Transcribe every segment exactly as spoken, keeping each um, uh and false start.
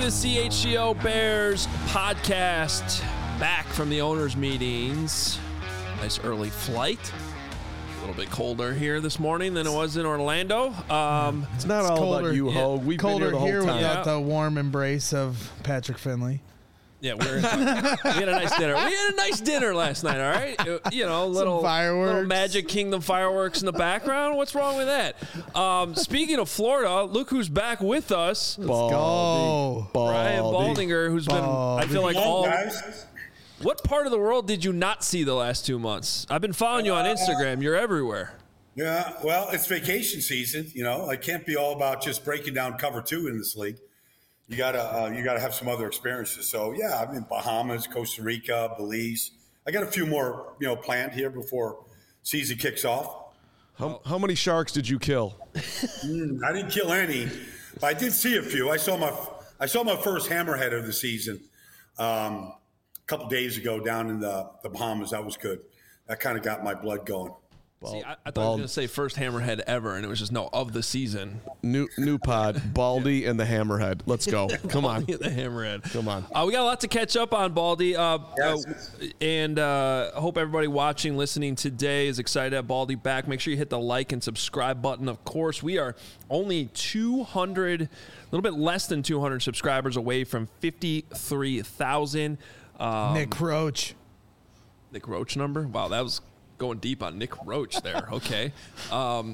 the C H G O Bears podcast, back from the owners' meetings. Nice early flight. A little bit colder here this morning than it was in Orlando. Um, it's not it's all colder, about you, Hogue. We've colder been here the whole here time. without yeah. the warm embrace of Patrick Finley. Yeah, we're, we had a nice dinner. We had a nice dinner last night, all right? You know, little, fireworks. little Magic Kingdom fireworks in the background. What's wrong with that? Um, speaking of Florida, look who's back with us. Let's go. Brian Baldinger, who's Baldy. been, I feel like all... Guys. What part of the world did you not see the last two months? I've been following you on Instagram. You're everywhere. Yeah, well, it's vacation season. You know, it can't be all about just breaking down cover two in this league. You gotta, uh, you gotta have some other experiences. So yeah, I'm in Bahamas, Costa Rica, Belize. I got a few more, you know, planned here before season kicks off. How, how many sharks did you kill? mm, I didn't kill any, but I did see a few. I saw my, I saw my first hammerhead of the season um, a couple days ago down in the, the Bahamas. That was good. That kind of got my blood going. Bald, See, I, I thought Bald. I was going to say first hammerhead ever, and it was just no, of the season. New new pod, Baldy and the Hammerhead. Let's go. Come on. the Hammerhead. Come on. Uh, we got a lot to catch up on, Baldy. Uh, yes. uh, and uh, I hope everybody watching, listening today is excited to have Baldy back. Make sure you hit the like and subscribe button. Of course, we are only two hundred, a little bit less than two hundred subscribers away from fifty-three thousand. Um, Nick Roach. Nick Roach number? Wow, that was... going deep on Nick Roach there. Okay. Um,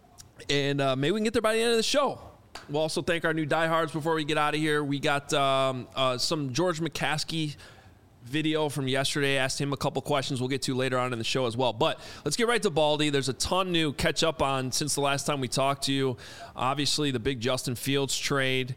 and uh, maybe we can get there by the end of the show. We'll also thank our new diehards before we get out of here. We got um, uh, some George McCaskey video from yesterday. Asked him a couple questions we'll get to later on in the show as well. But let's get right to Baldy. There's a ton new catch up on since the last time we talked to you. Obviously, the big Justin Fields trade.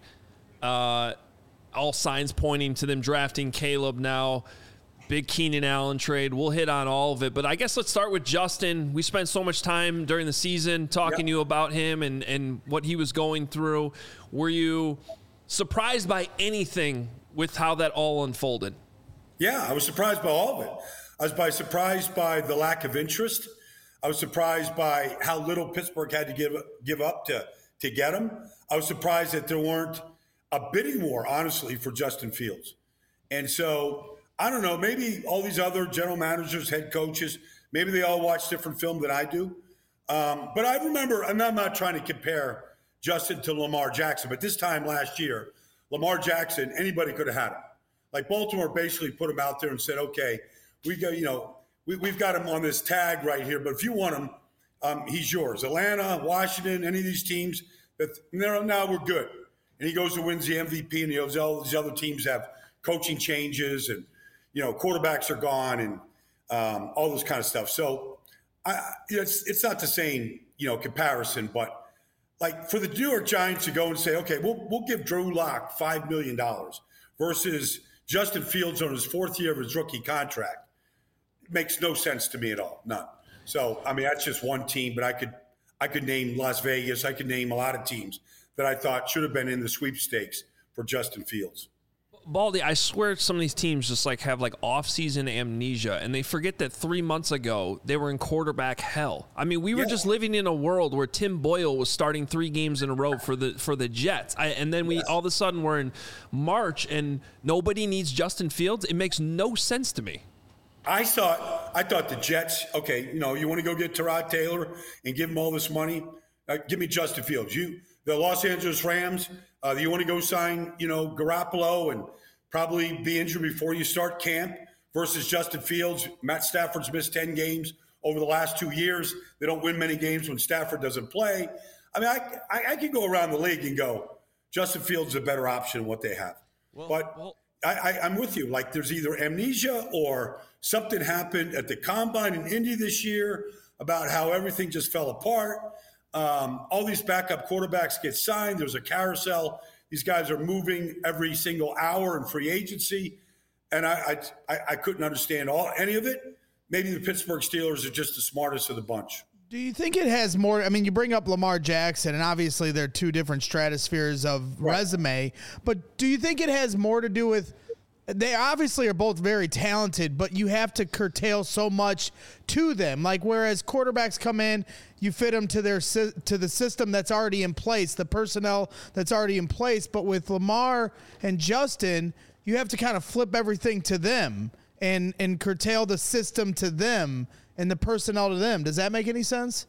Uh, all signs pointing to them drafting Caleb now. Big Keenan Allen trade. We'll hit on all of it. But I guess let's start with Justin. We spent so much time during the season talking yep. to you about him and, and what he was going through. Were you surprised by anything with how that all unfolded? Yeah, I was surprised by all of it. I was by surprised by the lack of interest. I was surprised by how little Pittsburgh had to give give up to, to get him. I was surprised that there weren't a bidding war, honestly, for Justin Fields. And so... I don't know, maybe all these other general managers, head coaches, maybe they all watch different film than I do. Um, but I remember, and I'm not trying to compare Justin to Lamar Jackson, but this time last year, Lamar Jackson, anybody could have had him. Like Baltimore basically put him out there and said, okay, we go, you know, we, we've got him on this tag right here, but if you want him, um, he's yours. Atlanta, Washington, any of these teams, that now we're good. And he goes and wins the M V P, and he goes, all these other teams have coaching changes and, you know, quarterbacks are gone and um, all this kind of stuff. So I, it's it's not the same, you know, comparison, but like for the New York Giants to go and say, okay, we'll we'll give Drew Lock five million dollars versus Justin Fields on his fourth year of his rookie contract, it makes no sense to me at all, none. So I mean, that's just one team, but I could I could name Las Vegas, I could name a lot of teams that I thought should have been in the sweepstakes for Justin Fields. Baldy, I swear some of these teams just like have like off-season amnesia, and they forget that three months ago they were in quarterback hell. I mean, we were yeah. just living in a world where Tim Boyle was starting three games in a row for the for the Jets, I, and then we yes. all of a sudden we're in March and nobody needs Justin Fields. It makes no sense to me. I thought I thought the Jets. Okay, you know, you want to go get Tyrod Taylor and give him all this money? Uh, give me Justin Fields. You, the Los Angeles Rams. Uh, you want to go sign, you know, Garoppolo and probably be injured before you start camp versus Justin Fields. Matt Stafford's missed ten games over the last two years. They don't win many games when Stafford doesn't play. I mean, I, I, I could go around the league and go, Justin Fields is a better option than what they have. Well, but well, I, I, I'm with you. Like there's either amnesia or something happened at the Combine in Indy this year about how everything just fell apart. Um, all these backup quarterbacks get signed. There's a carousel. These guys are moving every single hour in free agency. And I, I, I couldn't understand all any of it. Maybe the Pittsburgh Steelers are just the smartest of the bunch. Do you think it has more? I mean, you bring up Lamar Jackson, and obviously they're two different stratospheres of right. resume. But do you think it has more to do with they obviously are both very talented, but you have to curtail so much to them. Like, whereas quarterbacks come in, you fit them to their to the system that's already in place, the personnel that's already in place. But with Lamar and Justin, you have to kind of flip everything to them and and curtail the system to them and the personnel to them. Does that make any sense?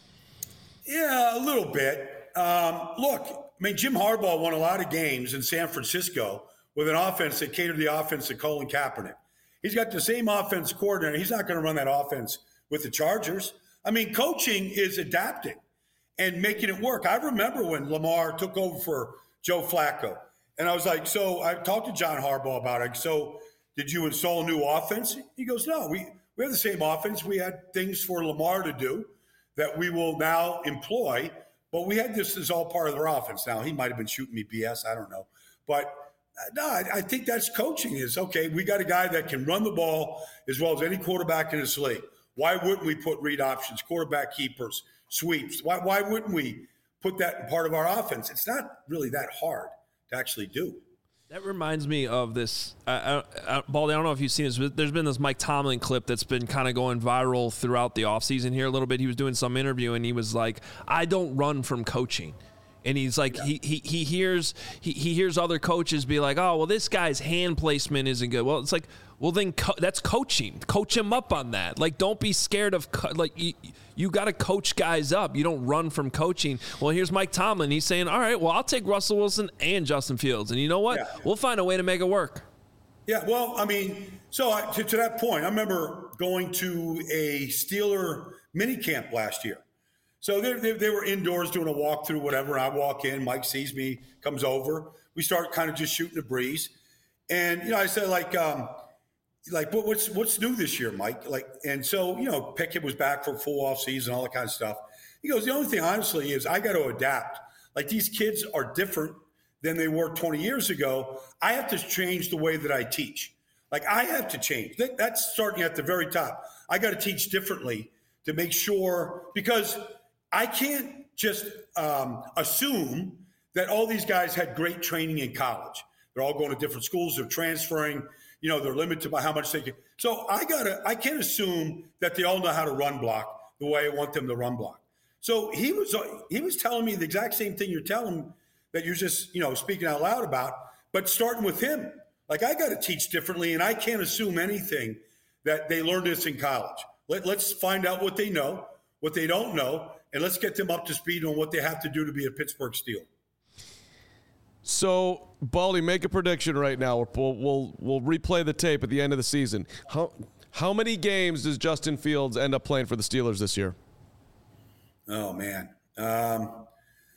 Yeah, a little bit. Um, look, I mean, Jim Harbaugh won a lot of games in San Francisco with an offense that catered the offense to Colin Kaepernick. He's got the same offense coordinator. He's not going to run that offense with the Chargers. I mean, coaching is adapting and making it work. I remember when Lamar took over for Joe Flacco, and I was like, so I talked to John Harbaugh about it. So did you install a new offense? He goes, no, we, we have the same offense. We had things for Lamar to do that we will now employ, but we had this as all part of their offense. Now, he might have been shooting me B S. I don't know. But no, I, I think that's coaching is, okay, we got a guy that can run the ball as well as any quarterback in this league. Why wouldn't we put read options, quarterback keepers, sweeps? Why, why wouldn't we put that in part of our offense? It's not really that hard to actually do. That reminds me of this. I, I, I, Baldy, I don't know if you've seen this, but there's been this Mike Tomlin clip that's been kind of going viral throughout the offseason here a little bit. He was doing some interview, and he was like, I don't run from coaching. And he's like, yeah. he, he he hears he, he hears other coaches be like, oh, well, this guy's hand placement isn't good. Well, it's like, well, then co- that's coaching. Coach him up on that. Like, don't be scared of co- like you, you got to coach guys up. You don't run from coaching. Well, here's Mike Tomlin. He's saying, all right, well, I'll take Russell Wilson and Justin Fields, and you know what? Yeah. We'll find a way to make it work. Yeah, well, I mean, so I, to, to that point, I remember going to a Steeler mini camp last year. So they, they, they were indoors doing a walkthrough, whatever. I walk in, Mike sees me, comes over. We start kind of just shooting the breeze. And, you know, I said, like, um, like what, what's what's new this year, Mike? Like, and so, you know, Pickett was back for a full off season, all that kind of stuff. He goes, the only thing, honestly, is I got to adapt. Like, these kids are different than they were twenty years ago. I have to change the way that I teach. Like, I have to change. That, that's starting at the very top. I got to teach differently to make sure, because I can't just um, assume that all these guys had great training in college. They're all going to different schools. They're transferring. You know, they're limited by how much they can. So I gotta. I can't assume that they all know how to run block the way I want them to run block. So he was. He was telling me the exact same thing you're telling that you're just, you know, speaking out loud about. But starting with him, like, I got to teach differently, and I can't assume anything that they learned this in college. Let, let's find out what they know, what they don't know. And let's get them up to speed on what they have to do to be a Pittsburgh Steel. So, Baldy, make a prediction right now. We'll, we'll we'll replay the tape at the end of the season. How how many games does Justin Fields end up playing for the Steelers this year? Oh, man. Um,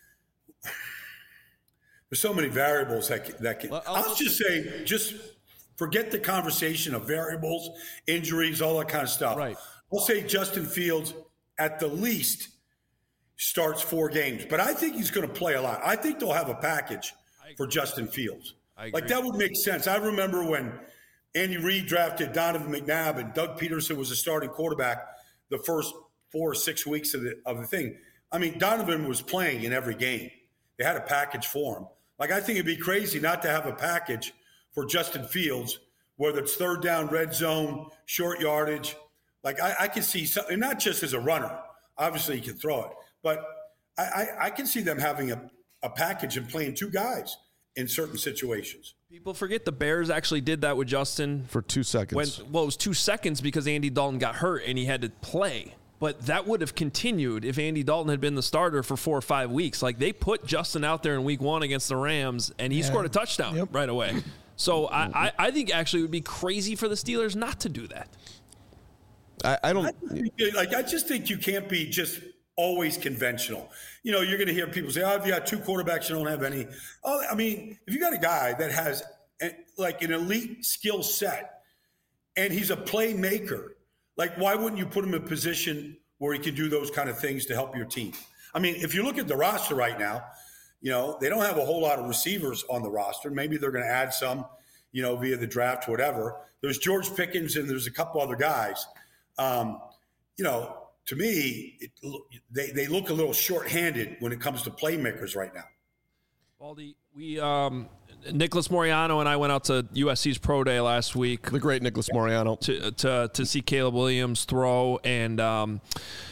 there's so many variables that can, that can. Well, I'll, I'll just say, just forget the conversation of variables, injuries, all that kind of stuff. Right. I'll say Justin Fields, at the least, starts four games. But I think he's going to play a lot. I think they'll have a package for Justin Fields. Like, that would make sense. I remember when Andy Reid drafted Donovan McNabb and Doug Peterson was the starting quarterback the first four or six weeks of the, of the thing. I mean, Donovan was playing in every game. They had a package for him. Like, I think it'd be crazy not to have a package for Justin Fields, whether it's third down, red zone, short yardage. Like, I, I can see something, and not just as a runner. Obviously, he can throw it. But I, I, I can see them having a, a package and playing two guys in certain situations. People forget the Bears actually did that with Justin. For two seconds. When, well, it was two seconds because Andy Dalton got hurt and he had to play. But that would have continued if Andy Dalton had been the starter for four or five weeks. Like, they put Justin out there in week one against the Rams, and he yeah. scored a touchdown yep. right away. So I, I, I think actually it would be crazy for the Steelers not to do that. I, I don't I think, like. I just think you can't be just always conventional. You know, you're going to hear people say, "Oh, if you got two quarterbacks, you don't have any." Oh, I mean, if you got a guy that has a, like an elite skill set and he's a playmaker, like, why wouldn't you put him in a position where he can do those kind of things to help your team? I mean, if you look at the roster right now, you know, they don't have a whole lot of receivers on the roster. Maybe they're going to add some, you know, via the draft, whatever. There's George Pickens and there's a couple other guys. Um, you know, to me, it, they, they look a little shorthanded when it comes to playmakers right now. Baldy, we um, Nicholas Moreano and I went out to U S C's Pro Day last week. The great Nicholas Moreano. To, to, to see Caleb Williams throw. And, um,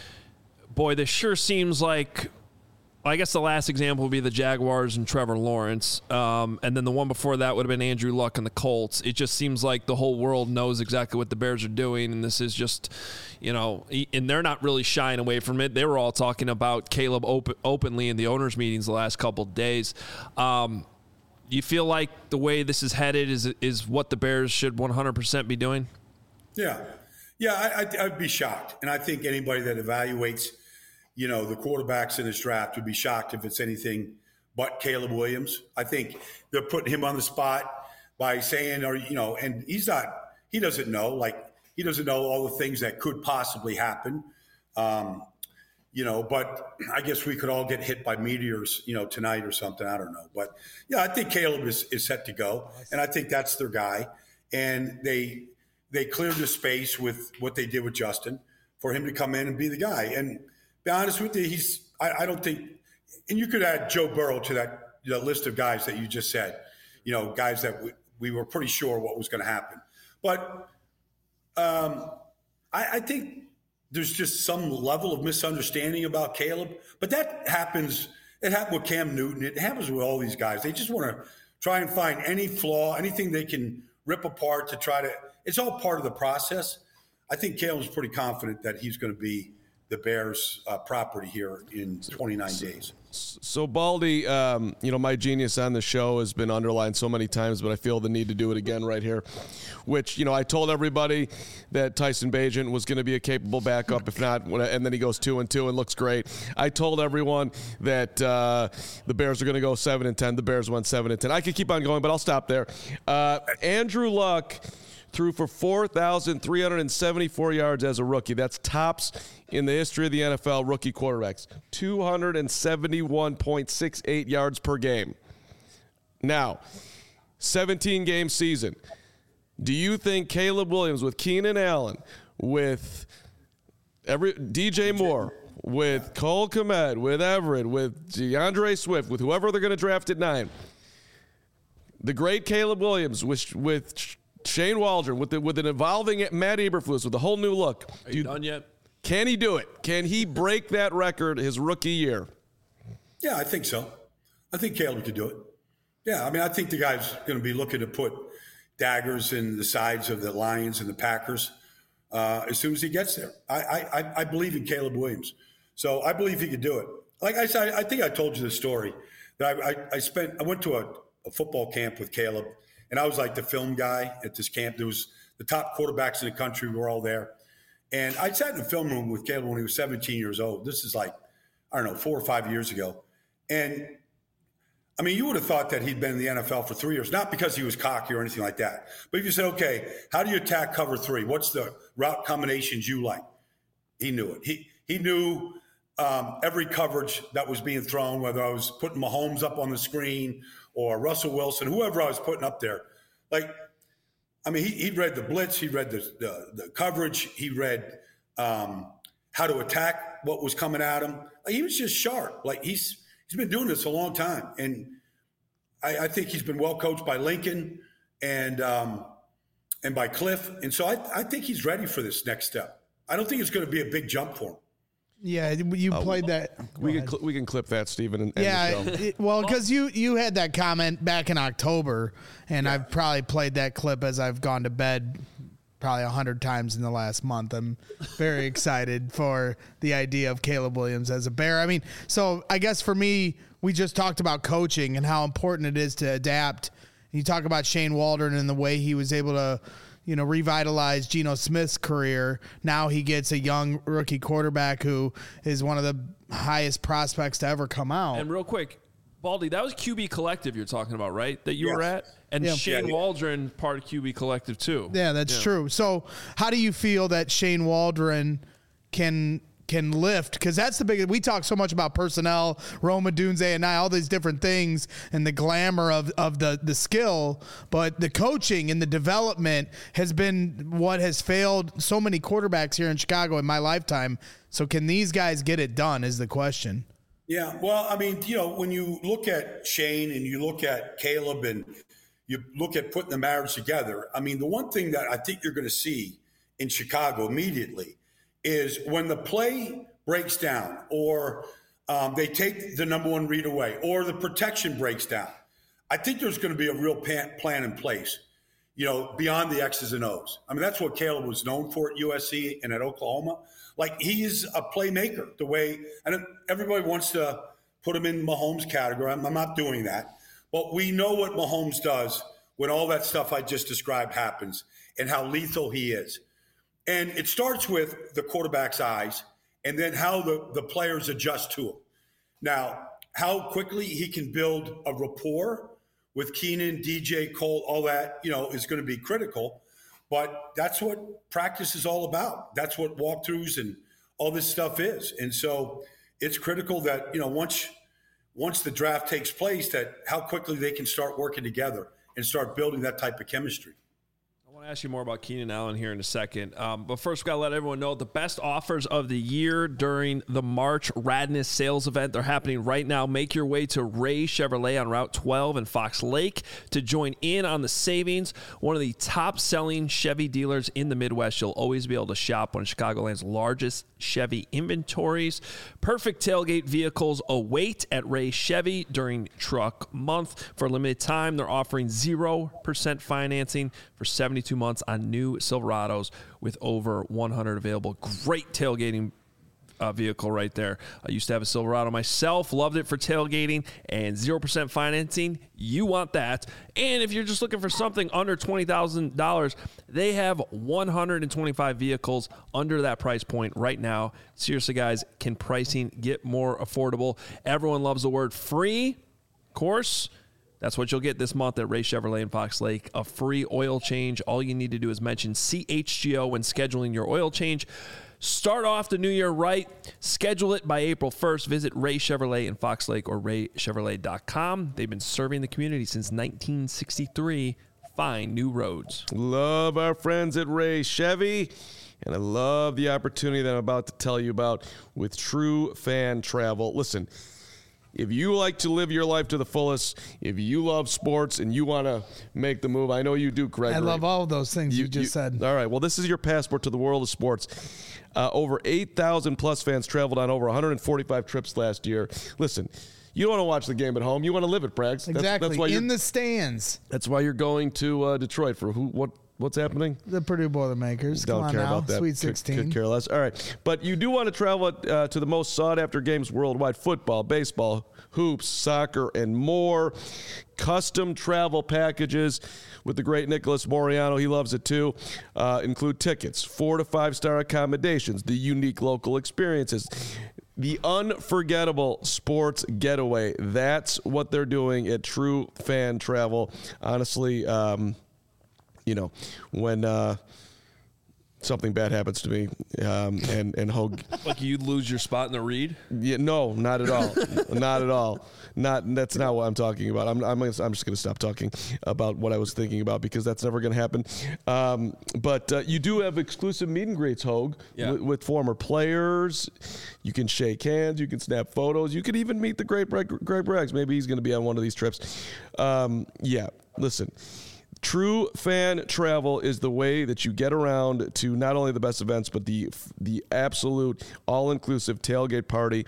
boy, this sure seems like, I guess the last example would be the Jaguars and Trevor Lawrence. Um, and then the one before that would have been Andrew Luck and the Colts. It just seems like the whole world knows exactly what the Bears are doing. And this is just, you know, and they're not really shying away from it. They were all talking about Caleb open, openly in the owners' meetings the last couple of days. Um, you feel like the way this is headed is is what the Bears should one hundred percent be doing? Yeah. Yeah, I, I, I'd be shocked. And I think anybody that evaluates, you know, the quarterbacks in this draft would be shocked if it's anything but Caleb Williams. I think they're putting him on the spot by saying, or, you know, and he's not, he doesn't know, like, he doesn't know all the things that could possibly happen. Um, you know, but I guess we could all get hit by meteors, you know, tonight or something. I don't know. But, yeah, I think Caleb is, is set to go. And I think that's their guy. And they they cleared the space with what they did with Justin for him to come in and be the guy. And be honest with you, he's I, I don't think – and you could add Joe Burrow to that you know, list of guys that you just said, you know, guys that we, we were pretty sure what was going to happen. But um, I, I think – there's just some level of misunderstanding about Caleb. But that happens. It happened with Cam Newton. It happens with all these guys. They just want to try and find any flaw, anything they can rip apart to try to – it's all part of the process. I think Caleb's pretty confident that he's going to be the Bears' uh, property here in twenty-nine days. So, Baldy, um, you know, my genius on the show has been underlined so many times, but I feel the need to do it again right here, which, you know, I told everybody that Tyson Bagent was going to be a capable backup, if not, and then he goes two and two and looks great. I told everyone that uh, the Bears are going to go seven and ten. The Bears went seven and ten. I could keep on going, but I'll stop there. Uh, Andrew Luck threw for four thousand three hundred seventy-four yards as a rookie. That's tops in the history of the N F L rookie quarterbacks. two hundred seventy-one point six eight yards per game. Now, seventeen-game season. Do you think Caleb Williams with Keenan Allen, with every D J Moore, with Cole Kmet, with Everett, with DeAndre Swift, with whoever they're going to draft at nine, the great Caleb Williams with with Shane Waldron, with the, with an evolving Matt Eberflus, with a whole new look. Are you done yet? Can he do it? Can he break that record his rookie year? Yeah, I think so. I think Caleb could do it. Yeah, I mean, I think the guy's going to be looking to put daggers in the sides of the Lions and the Packers uh, as soon as he gets there. I, I, I believe in Caleb Williams. So I believe he could do it. Like I said, I think I told you the story that I, I, I spent, I went to a, a football camp with Caleb, and I was like the film guy at this camp. There was the top quarterbacks in the country were all there. And I sat in the film room with Caleb when he was seventeen years old. This is like, I don't know, four or five years ago. And, I mean, you would have thought that he'd been in the N F L for three years, not because he was cocky or anything like that. But if you said, okay, how do you attack cover three? What's the route combinations you like? He knew it. He he knew um, every coverage that was being thrown, whether I was putting Mahomes up on the screen or Russell Wilson, whoever I was putting up there. Like, I mean, he, he read the blitz, he read the, the, the coverage, he read um, how to attack what was coming at him. Like, he was just sharp. Like, he's he's been doing this a long time. And I, I think he's been well coached by Lincoln and um, and by Cliff. And so I, I think he's ready for this next step. I don't think it's going to be a big jump for him. Yeah, you uh, played that. We can cl- we can clip that, Stephen. And, yeah, and the show. It, well, because you you had that comment back in October, and yeah. I've probably played that clip as I've gone to bed probably a hundred times in the last month. I'm very excited for the idea of Caleb Williams as a Bear. I mean, so I guess for me, we just talked about coaching and how important it is to adapt. You talk about Shane Waldron and the way he was able to, you know, revitalize Geno Smith's career. Now he gets a young rookie quarterback who is one of the highest prospects to ever come out. And real quick, Baldy, that was Q B Collective you're talking about, right? That you yes. were at? And Yeah. Shane Yeah, yeah. Waldron, part of Q B Collective, too. Yeah, that's Yeah. true. So how do you feel that Shane Waldron can can lift? Because that's the biggest. We talk so much about personnel, Roma Dunze and I, all these different things, and the glamour of, of the, the skill, but the coaching and the development has been what has failed so many quarterbacks here in Chicago in my lifetime. So can these guys get it done is the question. Yeah, well, I mean, you know, when you look at Shane and you look at Caleb and you look at putting the marriage together, I mean, the one thing that I think you're going to see in Chicago immediately is when the play breaks down or um, they take the number one read away or the protection breaks down, I think there's going to be a real plan in place, you know, beyond the X's and O's. I mean, that's what Caleb was known for at U S C and at Oklahoma. Like, he's a playmaker the way, and everybody wants to put him in Mahomes category. I'm, I'm not doing that. But we know what Mahomes does when all that stuff I just described happens and how lethal he is. And it starts with the quarterback's eyes and then how the, the players adjust to him. Now, how quickly he can build a rapport with Keenan, D J, Cole, all that, you know, is going to be critical. But that's what practice is all about. That's what walkthroughs and all this stuff is. And so it's critical that, you know, once once the draft takes place, that how quickly they can start working together and start building that type of chemistry. I want to ask you more about Keenan Allen here in a second. Um, but first, we've got to let everyone know the best offers of the year during the March Radness sales event. They're happening right now. Make your way to Ray Chevrolet on Route twelve in Fox Lake to join in on the savings. One of the top-selling Chevy dealers in the Midwest. You'll always be able to shop one of Chicagoland's largest Chevy inventories. Perfect tailgate vehicles await at Ray Chevy during Truck Month. For a limited time, they're offering zero percent financing for seventy-two months on new Silverados with over one hundred available. Great tailgating uh, vehicle right there. I used to have a Silverado myself, loved it for tailgating, and zero percent financing. You want that. And if you're just looking for something under twenty thousand dollars, they have one hundred twenty-five vehicles under that price point right now. Seriously, guys, can pricing get more affordable? Everyone loves the word free, of course. That's what you'll get this month at Ray Chevrolet in Fox Lake, a free oil change. All you need to do is mention C H G O when scheduling your oil change. Start off the new year right. Schedule it by April first. Visit Ray Chevrolet in Fox Lake or ray chevrolet dot com. They've been serving the community since nineteen sixty-three. Find new roads. Love our friends at Ray Chevy. And I love the opportunity that I'm about to tell you about with True Fan Travel. Listen, if you like to live your life to the fullest, if you love sports and you want to make the move, I know you do, Greg. I love all of those things you, you just you, said. All right. Well, this is your passport to the world of sports. Uh, over eight thousand plus fans traveled on over one hundred forty-five trips last year. Listen, you don't want to watch the game at home. You want to live it, Prags. Exactly. That's, that's why in the stands. That's why you're going to uh, Detroit for who? What? What's happening? The Purdue Boilermakers. Don't Come care on now. about that. Sweet sixteen. Could, could care less. All right. But you do want to travel uh, to the most sought-after games worldwide: football, baseball, hoops, soccer, and more. Custom travel packages with the great Nicholas Moriano. He loves it too. Uh, include tickets, four to five-star accommodations, the unique local experiences, the unforgettable sports getaway. That's what they're doing at True Fan Travel. Honestly, um, you know, when uh, something bad happens to me, um, and and Hogue, like you lose your spot in the read. Yeah, no, not at all, not at all. Not that's not what I'm talking about. I'm I'm, I'm just going to stop talking about what I was thinking about because that's never going to happen. Um, but uh, you do have exclusive meet and greets, Hogue, yeah. with, with former players. You can shake hands. You can snap photos. You could even meet the great Greg, Greg Braggs. Maybe he's going to be on one of these trips. Um, yeah, listen. True Fan Travel is the way that you get around to not only the best events, but the the absolute all-inclusive tailgate party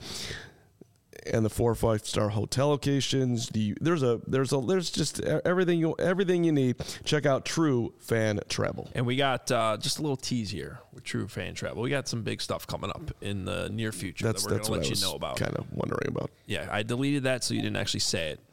and the four or five star hotel locations. The there's a there's a there's just everything you everything you need. Check out True Fan Travel. And we got uh, just a little tease here with True Fan Travel. We got some big stuff coming up in the near future that's, that we're that's going to what let I you know about. Kind of wondering about. Yeah, I deleted that so you didn't actually say it.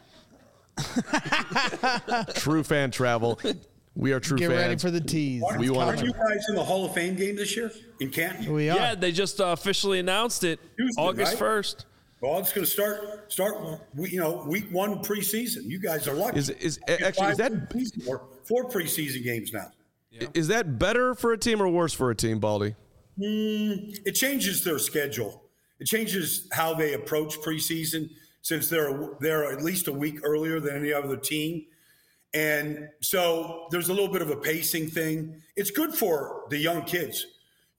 True Fan Travel. We are true Get fans. ready for the tease. We Are want you guys in the Hall of Fame game this year in Canton? We are. Yeah, they just uh, officially announced it Tuesday, August right? first. Well, it's going to start start. You know, week one preseason. You guys are lucky. Is is actually is that preseason, or four preseason games now? Yeah. Is that better for a team or worse for a team, Baldy? Mm, it changes their schedule. It changes how they approach preseason since they're they're at least a week earlier than any other team. And so there's a little bit of a pacing thing. It's good for the young kids.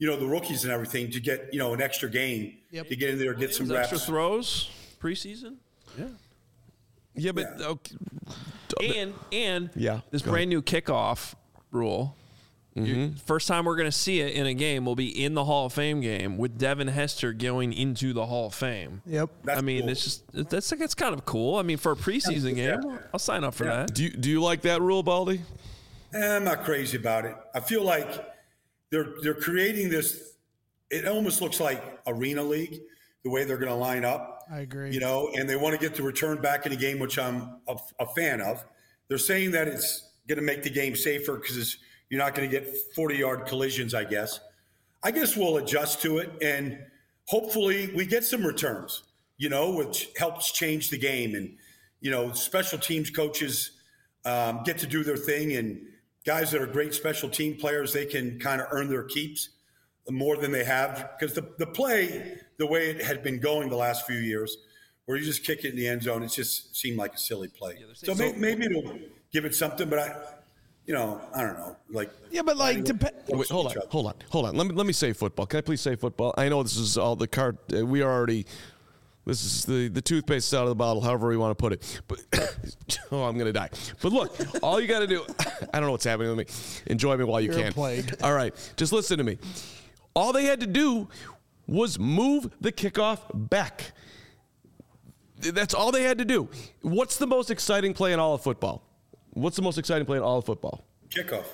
you know, the rookies and everything to get, you know, an extra game Yep. to get in there, get some reps. Extra throws preseason. Yeah. Yeah, but Yeah. okay. And and Yeah, this go brand new kickoff rule. You- First time we're going to see it in a game will be in the Hall of Fame game with Devin Hester going into the Hall of Fame. Yep. That's I mean, cool. it's just that's that's kind of cool. I mean, for a preseason Yeah. game, I'll sign up for Yeah. that. Do you, do you like that rule, Baldy? Eh, I'm not crazy about it. I feel like they're they're creating this. It almost looks like Arena League, the way they're going to line up. I agree. You know, and they want to get the return back in the game, which I'm a, a fan of. They're saying that it's going to make the game safer because you're not going to get forty-yard collisions, I guess. I guess we'll adjust to it, and hopefully we get some returns, you know, which helps change the game. And, you know, special teams coaches um, get to do their thing, and guys that are great special team players, they can kind of earn their keeps more than they have. Because the, the play, the way it had been going the last few years, where you just kick it in the end zone, it just seemed like a silly play. So may, maybe it'll give it something, but I, you know, I don't know. Like, Yeah, but like, dep- Wait, hold on, hold on, hold on. Let me let me say football. Can I please say football? I know this is all the card. Uh, we are already. This is the the toothpaste out of the bottle, however we want to put it. But oh, I'm gonna die. But look, all you got to do. I don't know what's happening with me. Enjoy me while you You're a can. plague. All right, just listen to me. All they had to do was move the kickoff back. That's all they had to do. What's the most exciting play in all of football? What's the most exciting play in all of football? kickoff.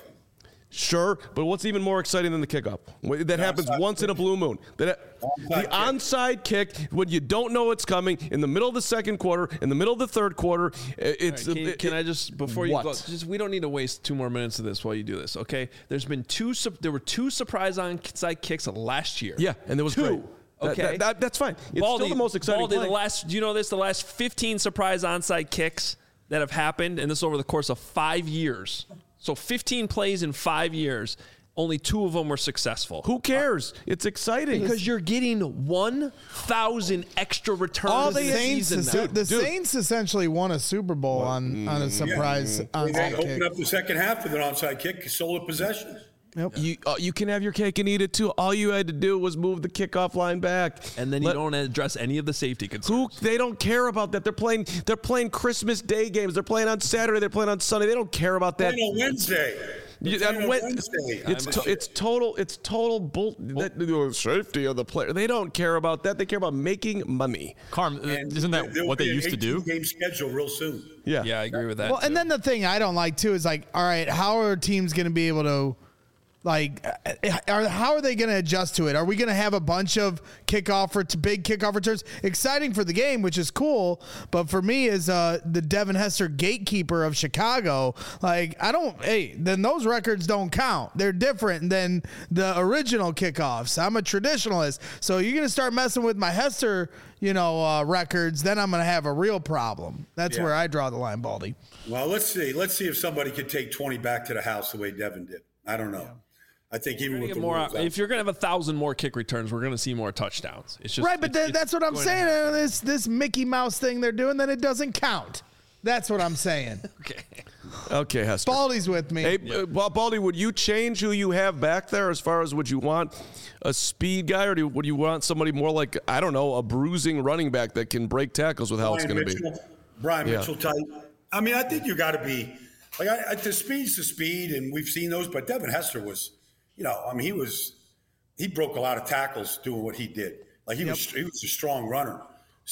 Sure, but what's even more exciting than the kickoff? That happens onside once in a blue moon. That Onside the kick. onside kick when you don't know it's coming in the middle of the second quarter, in the middle of the third quarter. It's All right, can, it- can it- I just before you what? go? Just we don't need to waste two more minutes of this while you do this. Okay, there's been two. sup- There were two surprise onside kicks last year. Yeah, and there was two. great. That- Okay, that- that- that's fine. It's Baldy, still the most exciting Baldy, play. the last. Do you know this? The last fifteen surprise onside kicks that have happened, and this over the course of five years. So fifteen plays in five years. Only two of them were successful. Who cares? It's exciting. Because you're getting one thousand extra returns All the this Saints, season now. the Dude. Saints essentially won a Super Bowl on, on a surprise They onside opened kick. up the second half with an onside kick, stole possession. You uh, you can have your cake and eat it too. All you had to do was move the kickoff line back, And then you Let- don't address any of the safety concerns. Who they don't care about that. They're playing. They're playing Christmas Day games. They're playing on Saturday. They're playing on Sunday. They don't care about that. Playing on Wednesday. You- They're that playing on Wed- Wednesday. It's to, it's total. It's total bull. That, the safety of the player. They don't care about that. They care about making money. Carm, uh, And isn't that there'll what they be an used to do? eighteen-game schedule real soon. Yeah. Yeah, I agree with that. Well, and too. then the thing I don't like too is like, all right, how are teams going to be able to, like, uh, are, how are they going to adjust to it? Are we going to have a bunch of kickoff or big kickoff returns? Exciting for the game, which is cool, but for me as uh, the Devin Hester gatekeeper of Chicago, like, I don't. Hey, then those records don't count. They're different than the original kickoffs. I'm a traditionalist, so you're going to start messing with my Hester, you know, uh, records. Then I'm going to have a real problem. That's Yeah. where I draw the line, Baldy. Well, let's see. Let's see if somebody could take twenty back to the house the way Devin did. I don't know. I think even with Get the more, rules out- if you're going to have a thousand more kick returns, we're going to see more touchdowns. It's just Right, but it's- th- that's what I'm going to saying. happen. Uh, This this Mickey Mouse thing they're doing, then it doesn't count. That's what I'm saying. Okay. Okay, Hester. Baldy's with me. Hey, uh, Ba- Baldy, would you change who you have back there as far as would you want a speed guy or do, would you want somebody more like, I don't know, a bruising running back that can break tackles with how it's Brian going to be? Mitchell, Brian Yeah. Mitchell type. I mean, I think you got to be like I, I, the speed's the speed, and we've seen those. But Devin Hester was, you know, I mean, he was he broke a lot of tackles doing what he did. Like he was he was a strong runner.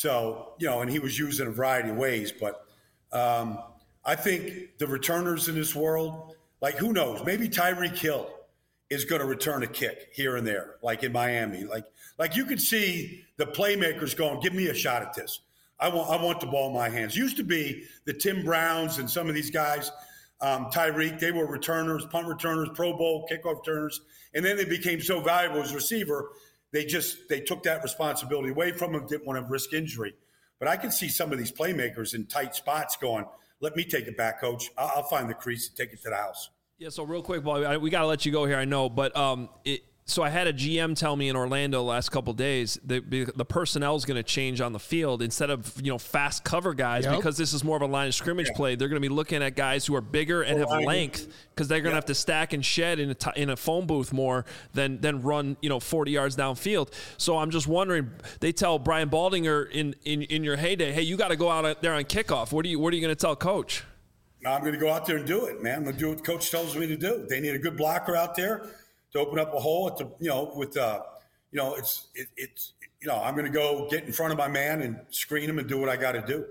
So you know, and he was used in a variety of ways. But um, I think the returners in this world, like who knows, maybe Tyreek Hill is going to return a kick here and there, like in Miami. Like like you could see the playmakers going, give me a shot at this. I want I want the ball in my hands. Used to be the Tim Browns and some of these guys, um, Tyreek, they were returners, punt returners, Pro Bowl, kickoff returners, and then they became so valuable as receiver, they just they took that responsibility away from them, didn't want to risk injury. But I can see some of these playmakers in tight spots going, let me take it back, coach. I'll, I'll find the crease and take it to the house. Yeah, so real quick, Bobby, I, we got to let you go here, I know, but um, it, So I had a G M tell me in Orlando the last couple of days that the personnel is going to change on the field instead of, you know, fast cover guys, yep. because this is more of a line of scrimmage yeah. play. They're going to be looking at guys who are bigger and have length because they're going to yeah. have to stack and shed in a, t- in a phone booth more than than run, you know, forty yards downfield. So I'm just wondering, they tell Brian Baldinger in, in, in your heyday, hey, you got to go out there on kickoff. What are you, what are you going to tell Coach? No, I'm going to go out there and do it, man. I'm going to do what Coach tells me to do. They need a good blocker out there to open up a hole at the, you know, with, uh, you know, it's, it, it's, you know, I'm going to go get in front of my man and screen him and do what I got to do.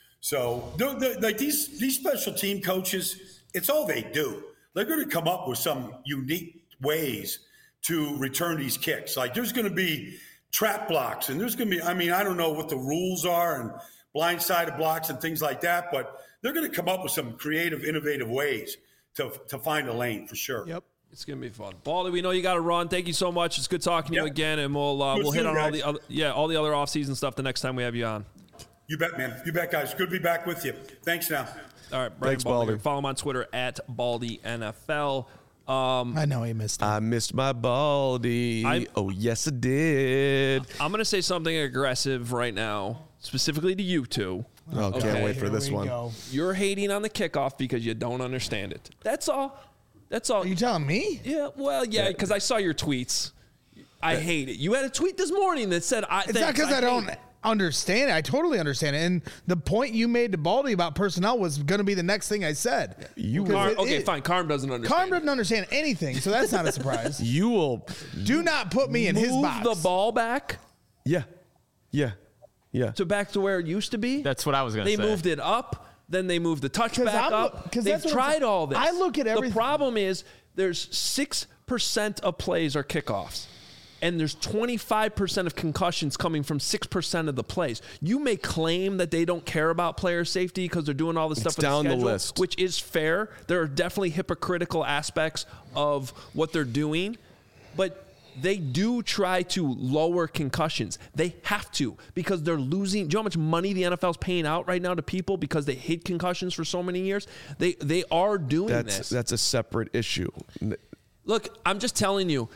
So, like these, these special team coaches, it's all they do. They're going to come up with some unique ways to return these kicks. Like there's going to be trap blocks and there's going to be, I mean, I don't know what the rules are and blindsided blocks and things like that, but they're going to come up with some creative, innovative ways to, to find a lane for sure. Yep. It's gonna be fun, Baldy. We know you got to run. Thank you so much. It's good talking to yep. you again, and we'll uh, we'll hit on all the other, yeah all the other off-season stuff the next time we have you on. You bet, man. You bet, guys. Good to be back with you. Thanks. Now, all right, Brian Thanks, Baldy. Baldy. Follow him on Twitter at Baldy N F L. Um, I know he missed it. I missed my Baldy. I, oh yes, I did. I'm gonna say something aggressive right now, specifically to you two. Oh, okay. Can't wait for Here this we one. go. You're hating on the kickoff because you don't understand it. That's all. That's all. Are you telling me? Yeah, well, yeah, because I saw your tweets. I yeah. hate it. You had a tweet this morning that said, I, It's not because I, I don't it. understand it. I totally understand it. And the point you made to Baldy about personnel was going to be the next thing I said. You Car- it, Okay, it, fine. Carm doesn't understand. Carm doesn't understand anything, so that's not a surprise. You will. Do not put me in his box. Move the ball back. Yeah. Yeah. Yeah. To back to where it used to be. That's what I was going to say. They moved it up. Then they moved the touch back I'm, up. They've tried all this. I look at everything. The problem is there's six percent of plays are kickoffs. And there's twenty-five percent of concussions coming from six percent of the plays. You may claim that they don't care about player safety because they're doing all this it's stuff down with the, schedule, the list, which is fair. There are definitely hypocritical aspects of what they're doing. But they do try to lower concussions. They have to because they're losing. Do you know how much money the N F L is paying out right now to people because they hid concussions for so many years? They they are doing that's, this. That's a separate issue. Look, I'm just telling you,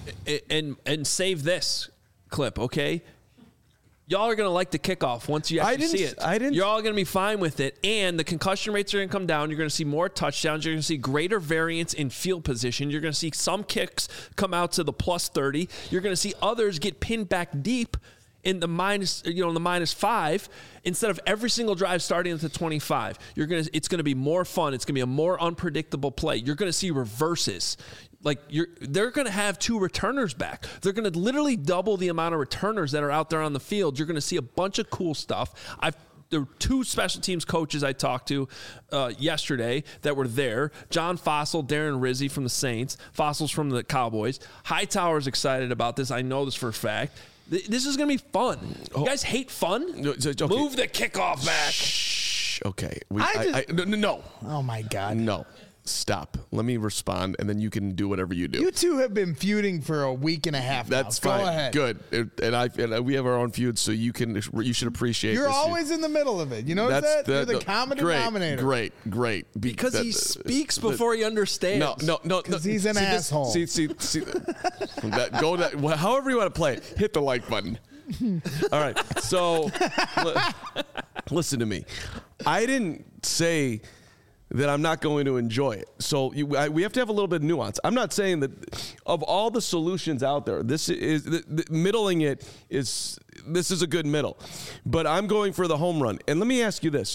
and and save this clip, okay? Y'all are going to like the kickoff once you actually see it. I didn't. You're all going to be fine with it. And the concussion rates are going to come down. You're going to see more touchdowns. You're going to see greater variance in field position. You're going to see some kicks come out to the plus thirty. You're going to see others get pinned back deep in the minus, you know, in the minus five instead of every single drive starting at the twenty-five. You're going to, it's going to be more fun. It's going to be a more unpredictable play. You're going to see reverses. Like you're, they're going to have two returners back. They're going to literally double the amount of returners that are out there on the field. You're going to see a bunch of cool stuff. I've there were two special teams coaches I talked to uh, yesterday that were there. John Fossil, Darren Rizzi from the Saints, Fossil's from the Cowboys. Hightower's excited about this. I know this for a fact. Th- this is going to be fun. You guys hate fun? No, okay. Move the kickoff back. Shh. Okay. We, I I, just, I, no, no. Oh, my God. No. Stop. Let me respond, and then you can do whatever you do. You two have been feuding for a week and a half now. That's Go fine. ahead. Good. It, and I and we have our own feuds, so you can you should appreciate. You're this. always in the middle of it. You know that? You're the common great, denominator. Great, great. Because that, he speaks before he understands. No, no, no. Because no, he's an see asshole. This, see, see, see. that, go that. However you want to play it, hit the like button. All right. So, li- listen to me. I didn't say that I'm not going to enjoy it. So you, I, we have to have a little bit of nuance. I'm not saying that of all the solutions out there, this is the, the, middling it is this is a good middle, but I'm going for the home run. And let me ask you this.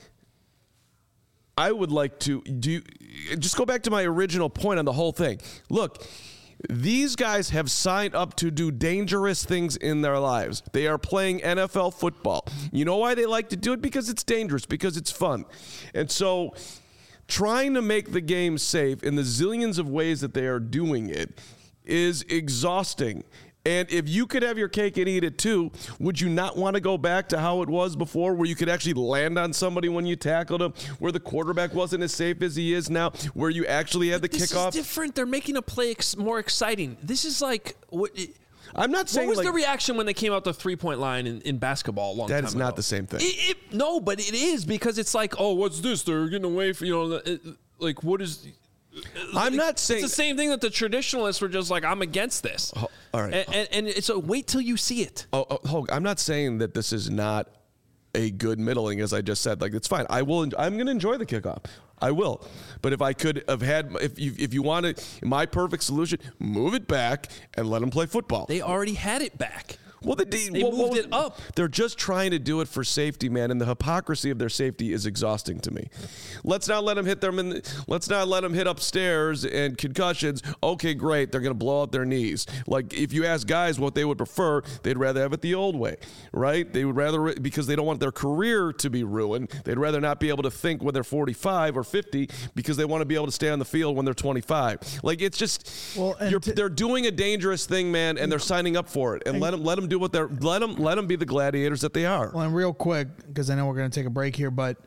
I would like to do you, just go back to my original point on the whole thing. Look, these guys have signed up to do dangerous things in their lives. They are playing N F L football. You know why they like to do it? Because it's dangerous, because it's fun. And so trying to make the game safe in the zillions of ways that they are doing it is exhausting. And if you could have your cake and eat it too, would you not want to go back to how it was before, where you could actually land on somebody when you tackled him, where the quarterback wasn't as safe as he is now, where you actually had the this kickoff? This is different. They're making a play ex- more exciting. This is like what. It, I'm not saying. What was like, the reaction when they came out the three point line in, in basketball a long that time is ago? not the same thing. It, it, no, but it is because it's like, oh, what's this? They're getting away from you know, it, like what is. I'm not saying it's the same thing that the traditionalists were just like, I'm against this. Oh, all right. And, and, and it's a wait till you see it. Oh, oh, Hogue, I'm not saying that this is not a good middling, as I just said. Like, it's fine. I will. I'm going to enjoy the kickoff. I will. But if I could have had, if you if you wanted my perfect solution, move it back and let them play football. They already had it back. Well, the, they well, moved well, it up. They're just trying to do it for safety, man, and the hypocrisy of their safety is exhausting to me. Let's not let them hit them in. The, let's not let them hit upstairs and concussions. Okay, great. They're going to blow out their knees. Like, if you ask guys what they would prefer, they'd rather have it the old way, right? They would rather, because they don't want their career to be ruined. They'd rather not be able to think when they're forty-five or fifty because they want to be able to stay on the field when they're twenty-five. Like, it's just, well, you're, t- they're doing a dangerous thing, man, and they're signing up for it. And, and let them let them do what they're let them let them be the gladiators that they are. Well, and real quick, because I know we're going to take a break here, but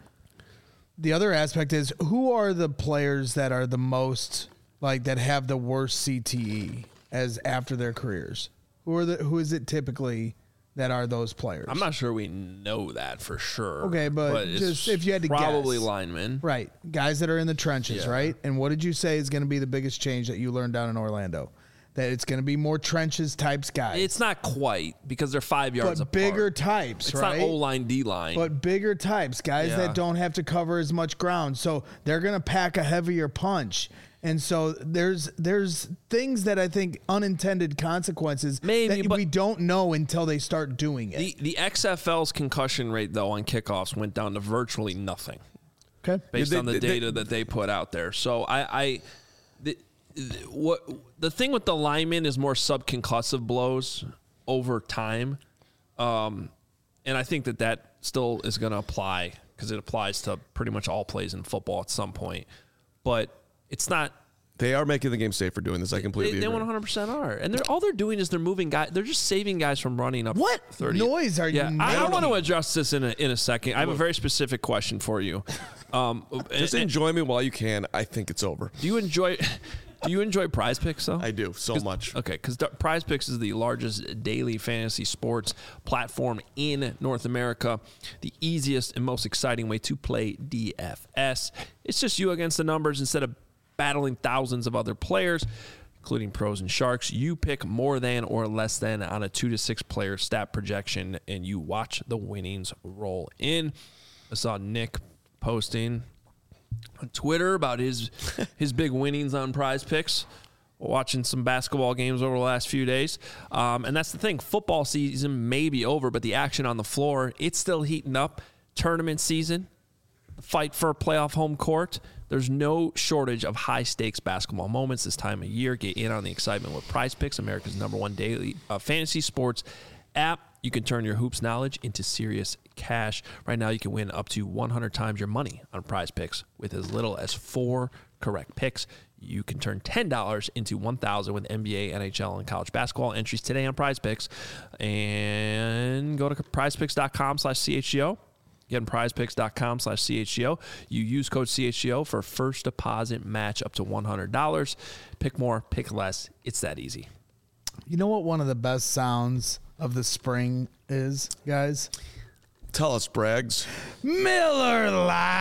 the other aspect is, who are the players that are the most, like, that have the worst C T E as after their careers? Who are the who is it typically that are those players? I'm not sure we know that for sure. Okay, but, but just if you had to probably guess. linemen. Right. Guys that are in the trenches, Yeah. right? And what did you say is going to be the biggest change that you learned down in Orlando? That it's going to be more trenches types guys. It's not quite, because they're five yards but apart. bigger types, it's right? not O-line, D-line. But bigger types, guys Yeah. that don't have to cover as much ground. So they're going to pack a heavier punch. And so there's there's things that I think unintended consequences Maybe, that but we don't know until they start doing it. the, the X F L's concussion rate, though, on kickoffs went down to virtually nothing Okay. based They- on the they- data that they put out there. So I, I the, the, what the thing with the linemen is more subconcussive blows over time, um, and I think that that still is going to apply because it applies to pretty much all plays in football at some point. But it's not. They are making the game safer doing this. I completely They, they agree. one hundred percent are, and they're all they're doing is they're moving guys. They're just saving guys from running up. What thirty. noise are you Yeah, I, I making? want to address this in a in a second. I have a very specific question for you. Um, Just and- enjoy me while you can. I think it's over. do you enjoy? Do you enjoy Prize Picks though? I do so much. Okay, because Prize Picks is the largest daily fantasy sports platform in North America. The easiest and most exciting way to play D F S. It's just you against the numbers instead of battling thousands of other players, including pros and sharks. You pick more than or less than on a two to six player stat projection, and you watch the winnings roll in. I saw Nick posting on Twitter about his his big winnings on Prize Picks, watching some basketball games over the last few days. Um, and that's the thing. Football season may be over, but the action on the floor, it's still heating up. Tournament season, fight for a playoff home court. There's no shortage of high-stakes basketball moments this time of year. Get in on the excitement with Prize Picks, America's number one daily uh, fantasy sports app. You can turn your hoops knowledge into serious cash. Right now, you can win up to one hundred times your money on Prize Picks with as little as four correct picks. You can turn ten dollars into one thousand dollars with N B A, N H L, and college basketball entries today on Prize Picks. And go to prizepicks.com slash CHGO. Again, prizepicks.com slash CHGO. You use code C H G O for first deposit match up to one hundred dollars. Pick more, pick less. It's that easy. You know what one of the best sounds of the spring is, guys? Tell us, Braggs. Miller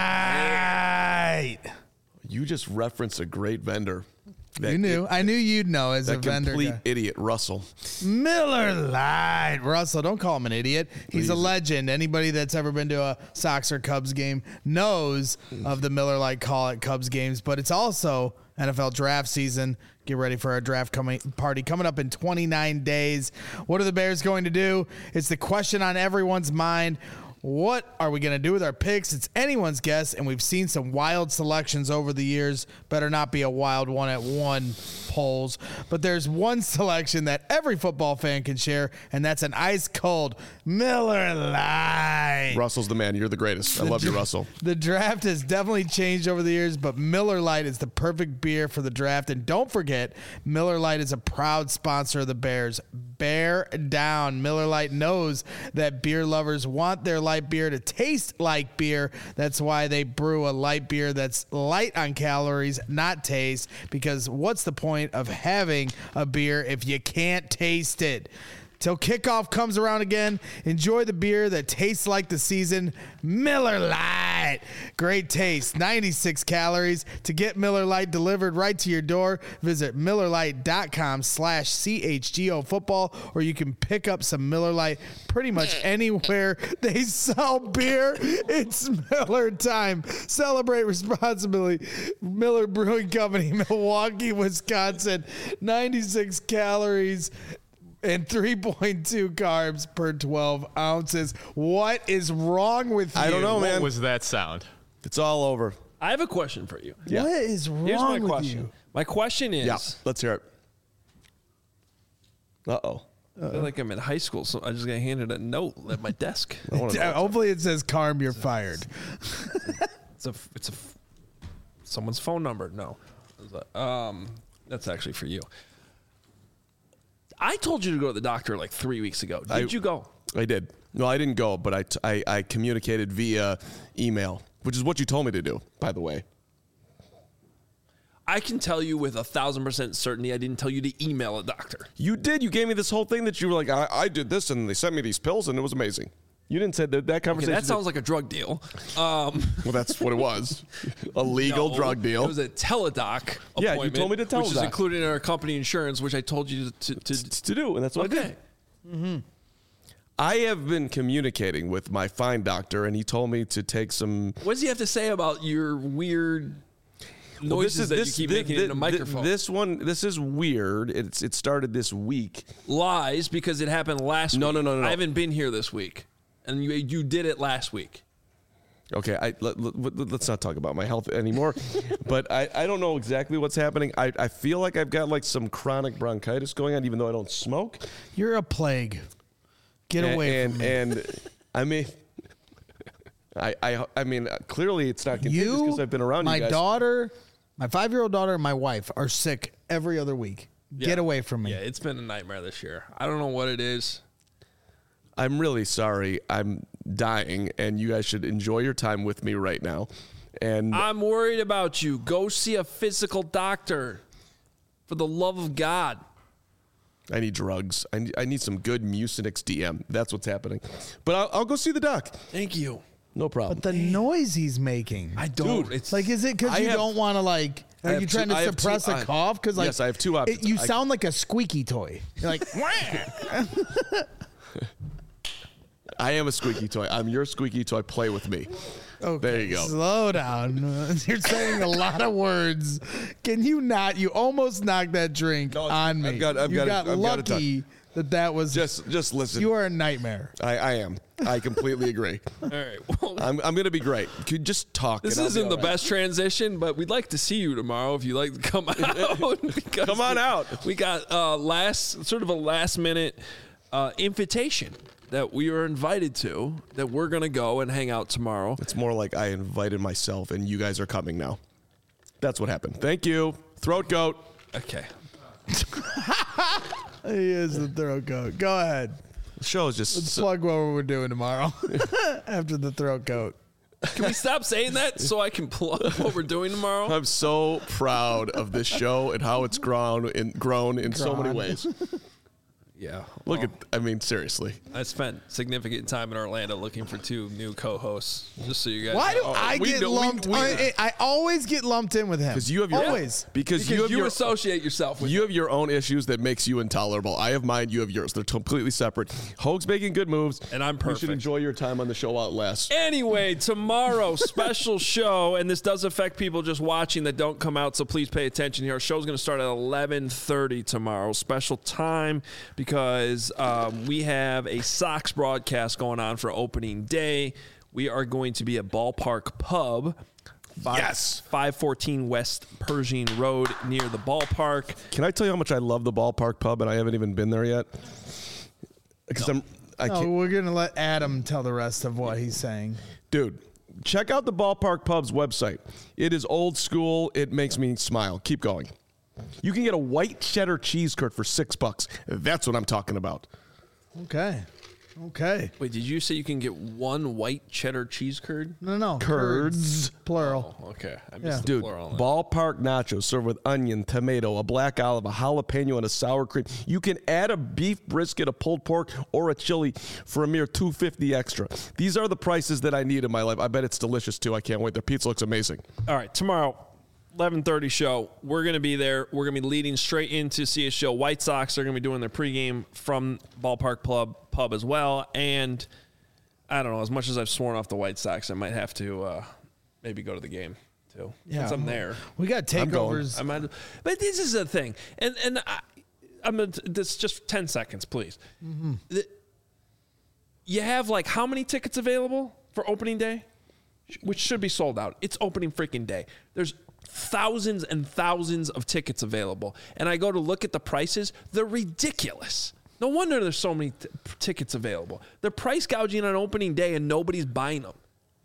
Lite. You just referenced a great vendor. That You knew. i- I knew you'd know as a that vendor complete guy. idiot, Russell. Miller Lite. Russell, don't call him an idiot. He's a legend. Anybody that's ever been to a Sox or Cubs game knows of the Miller Lite call at Cubs games, but it's also N F L draft season. Get ready for our draft coming party coming up in twenty-nine days. What are the Bears going to do? It's the question on everyone's mind. What are we going to do with our picks? It's anyone's guess, and we've seen some wild selections over the years. Better not be a wild one at one polls. But there's one selection that every football fan can share, and that's an ice-cold Miller Lite. Russell's the man. You're the greatest. I love you, Russell. The draft has definitely changed over the years, but Miller Lite is the perfect beer for the draft. And don't forget, Miller Lite is a proud sponsor of the Bears. Bear down. Miller Lite knows that beer lovers want their light beer to taste like beer. That's why they brew a light beer that's light on calories, not taste, because what's the point of having a beer if you can't taste it? till kickoff comes around again. Enjoy the beer that tastes like the season, Miller Lite. Great taste, ninety-six calories. To get Miller Lite delivered right to your door, visit MillerLite.com slash CHGO football, or you can pick up some Miller Lite pretty much anywhere they sell beer. It's Miller time. Celebrate responsibly. Miller Brewing Company, Milwaukee, Wisconsin. ninety-six calories and three point two carbs per twelve ounces. What is wrong with you? I don't know, What man. was that sound? It's all over. I have a question for you. Yeah. What is wrong Here's my with question. you? My question is, Yeah, let's hear it. Uh-oh. I feel like I'm in high school, so I just got handed a note at my desk. Yeah, hopefully it says Carm, you're fired. It's a, it's a, someone's phone number. No, um, that's actually for you. I told you to go to the doctor like three weeks ago. Did I- you go? I did. No, I didn't go, but I, t- I, I communicated via email, which is what you told me to do, by the way. I can tell you with a thousand percent certainty I didn't tell you to email a doctor. You did. You gave me this whole thing that you were like, I, I did this, and they sent me these pills, and it was amazing. You didn't say that that Okay, conversation. that sounds like a drug deal. Um, well, that's what it was. A legal no, drug deal. It was a teledoc Yeah, you appointment, told me to tell which is that. included in our company insurance, which I told you to. to, to to do, and that's what I okay. did. I have been communicating with my fine doctor, and he told me to take some. What does he have to say about your weird noises Well, this is, that this, you keep thi- making thi- in a microphone? This one, this is weird. It's it started this week. Lies because it happened last No, week. no, no, no, no. I haven't been here this week, and you you did it last week. Okay, I, let, let, let's not talk about my health anymore. But I, I don't know exactly what's happening. I, I feel like I've got like some chronic bronchitis going on, even though I don't smoke. You're a plague. Get and, away and, from me. And I mean, I, I, I mean, clearly it's not contagious You, because I've been around my you guys. daughter, my five-year-old daughter, and my wife are sick every other week. Get Yeah. away from me. Yeah, it's been a nightmare this year. I don't know what it is. I'm really sorry. I'm dying, and you guys should enjoy your time with me right now. And I'm worried about you. Go see a physical doctor. For the love of God. I need drugs. I need, I need some good Mucinex D M. That's what's happening. But I'll, I'll go see the doc. Thank you. No problem. But the noise he's making. I don't. Dude, it's Like, is it because I you have- don't want to, like, I are have you two- trying to I have two- suppress a I- cough? Because, like, yes, I have two options. It, you I- sound like a squeaky toy. You're like, I am a squeaky toy. I'm your squeaky toy. Play with me. okay, There you go. slow down. You're saying a lot of words. Can you not? You almost knocked that drink No, on me. I've got- I've you got it- got I've got it done. lucky that that was. Just just listen. you are a nightmare. I, I am. I completely agree. all right. Well, I'm, I'm going to be great. Could you just talk? this and I'll isn't be the all right. best transition, but we'd like to see you tomorrow if you'd like to come out. because Come on we- out. We got uh, last sort of a last minute uh, invitation that we were invited to. That we're gonna go and hang out tomorrow. It's more like I invited myself, and you guys are coming now. That's what happened. Thank you. Throat goat. Okay. He is the throat coat. Go ahead. The show is just. so- Plug what we're doing tomorrow after the throat coat. Can we stop saying that so I can plug what we're doing tomorrow? I'm so proud of this show and how it's grown in grown in so many Grown. ways. Yeah. Look at, I mean, seriously. I spent significant time in Orlando looking for two new co-hosts. Just so you guys. Why do know. I we get know- we- lumped? we- I, I always get lumped in with him. Because you have your always. because, Because you you, have your associate yourself with. you have your own issues that makes you intolerable. I have mine. You have yours. They're completely separate. Hoag's making good moves, And I'm You should perfect. enjoy your time on the show while it lasts. Anyway, tomorrow, special show, and this does affect people just watching that don't come out, so please pay attention here. Our show's going to start at eleven thirty tomorrow. Special time because um, we have a Sox broadcast going on for opening day. We are going to be at Ballpark Pub. Five, Yes. five fourteen West Pershing Road near the ballpark. Can I tell you how much I love the Ballpark Pub, and I haven't even been there yet? Because I'm, I No, can't, we're gonna let Adam tell the rest of what he's saying. dude. Check out the Ballpark Pub's website. It is old school. It makes me smile. Keep going. You can get a white cheddar cheese curd for six bucks. That's what I'm talking about. Okay. Okay. Wait, did you say you can get one white cheddar cheese curd? No, no. Curds. Plural. Oh, okay. I missed Yeah. the Dude, plural on that. ballpark nachos served with onion, tomato, a black olive, a jalapeno, and a sour cream. You can add a beef brisket, a pulled pork, or a chili for a mere two dollars and fifty cents extra. These are the prices that I need in my life. I bet it's delicious, too. I can't wait. Their pizza looks amazing. All right, tomorrow, eleven thirty show. We're going to be there. We're going to be leading straight into C H L White Sox. They're going to be doing their pregame from Ballpark Pub, pub as well. And I don't know, as much as I've sworn off the White Sox, I might have to uh, maybe go to the game too. Yeah. Since I'm there. We got takeovers. I might, but this is the thing. And and I, I'm gonna, this just ten seconds, please. Mm-hmm. The, you have like how many tickets available for opening day? Which should be sold out. It's opening freaking day. There's thousands and thousands of tickets available. And I go to look at the prices. They're ridiculous. No wonder there's so many t- tickets available. They're price gouging on opening day and nobody's buying them.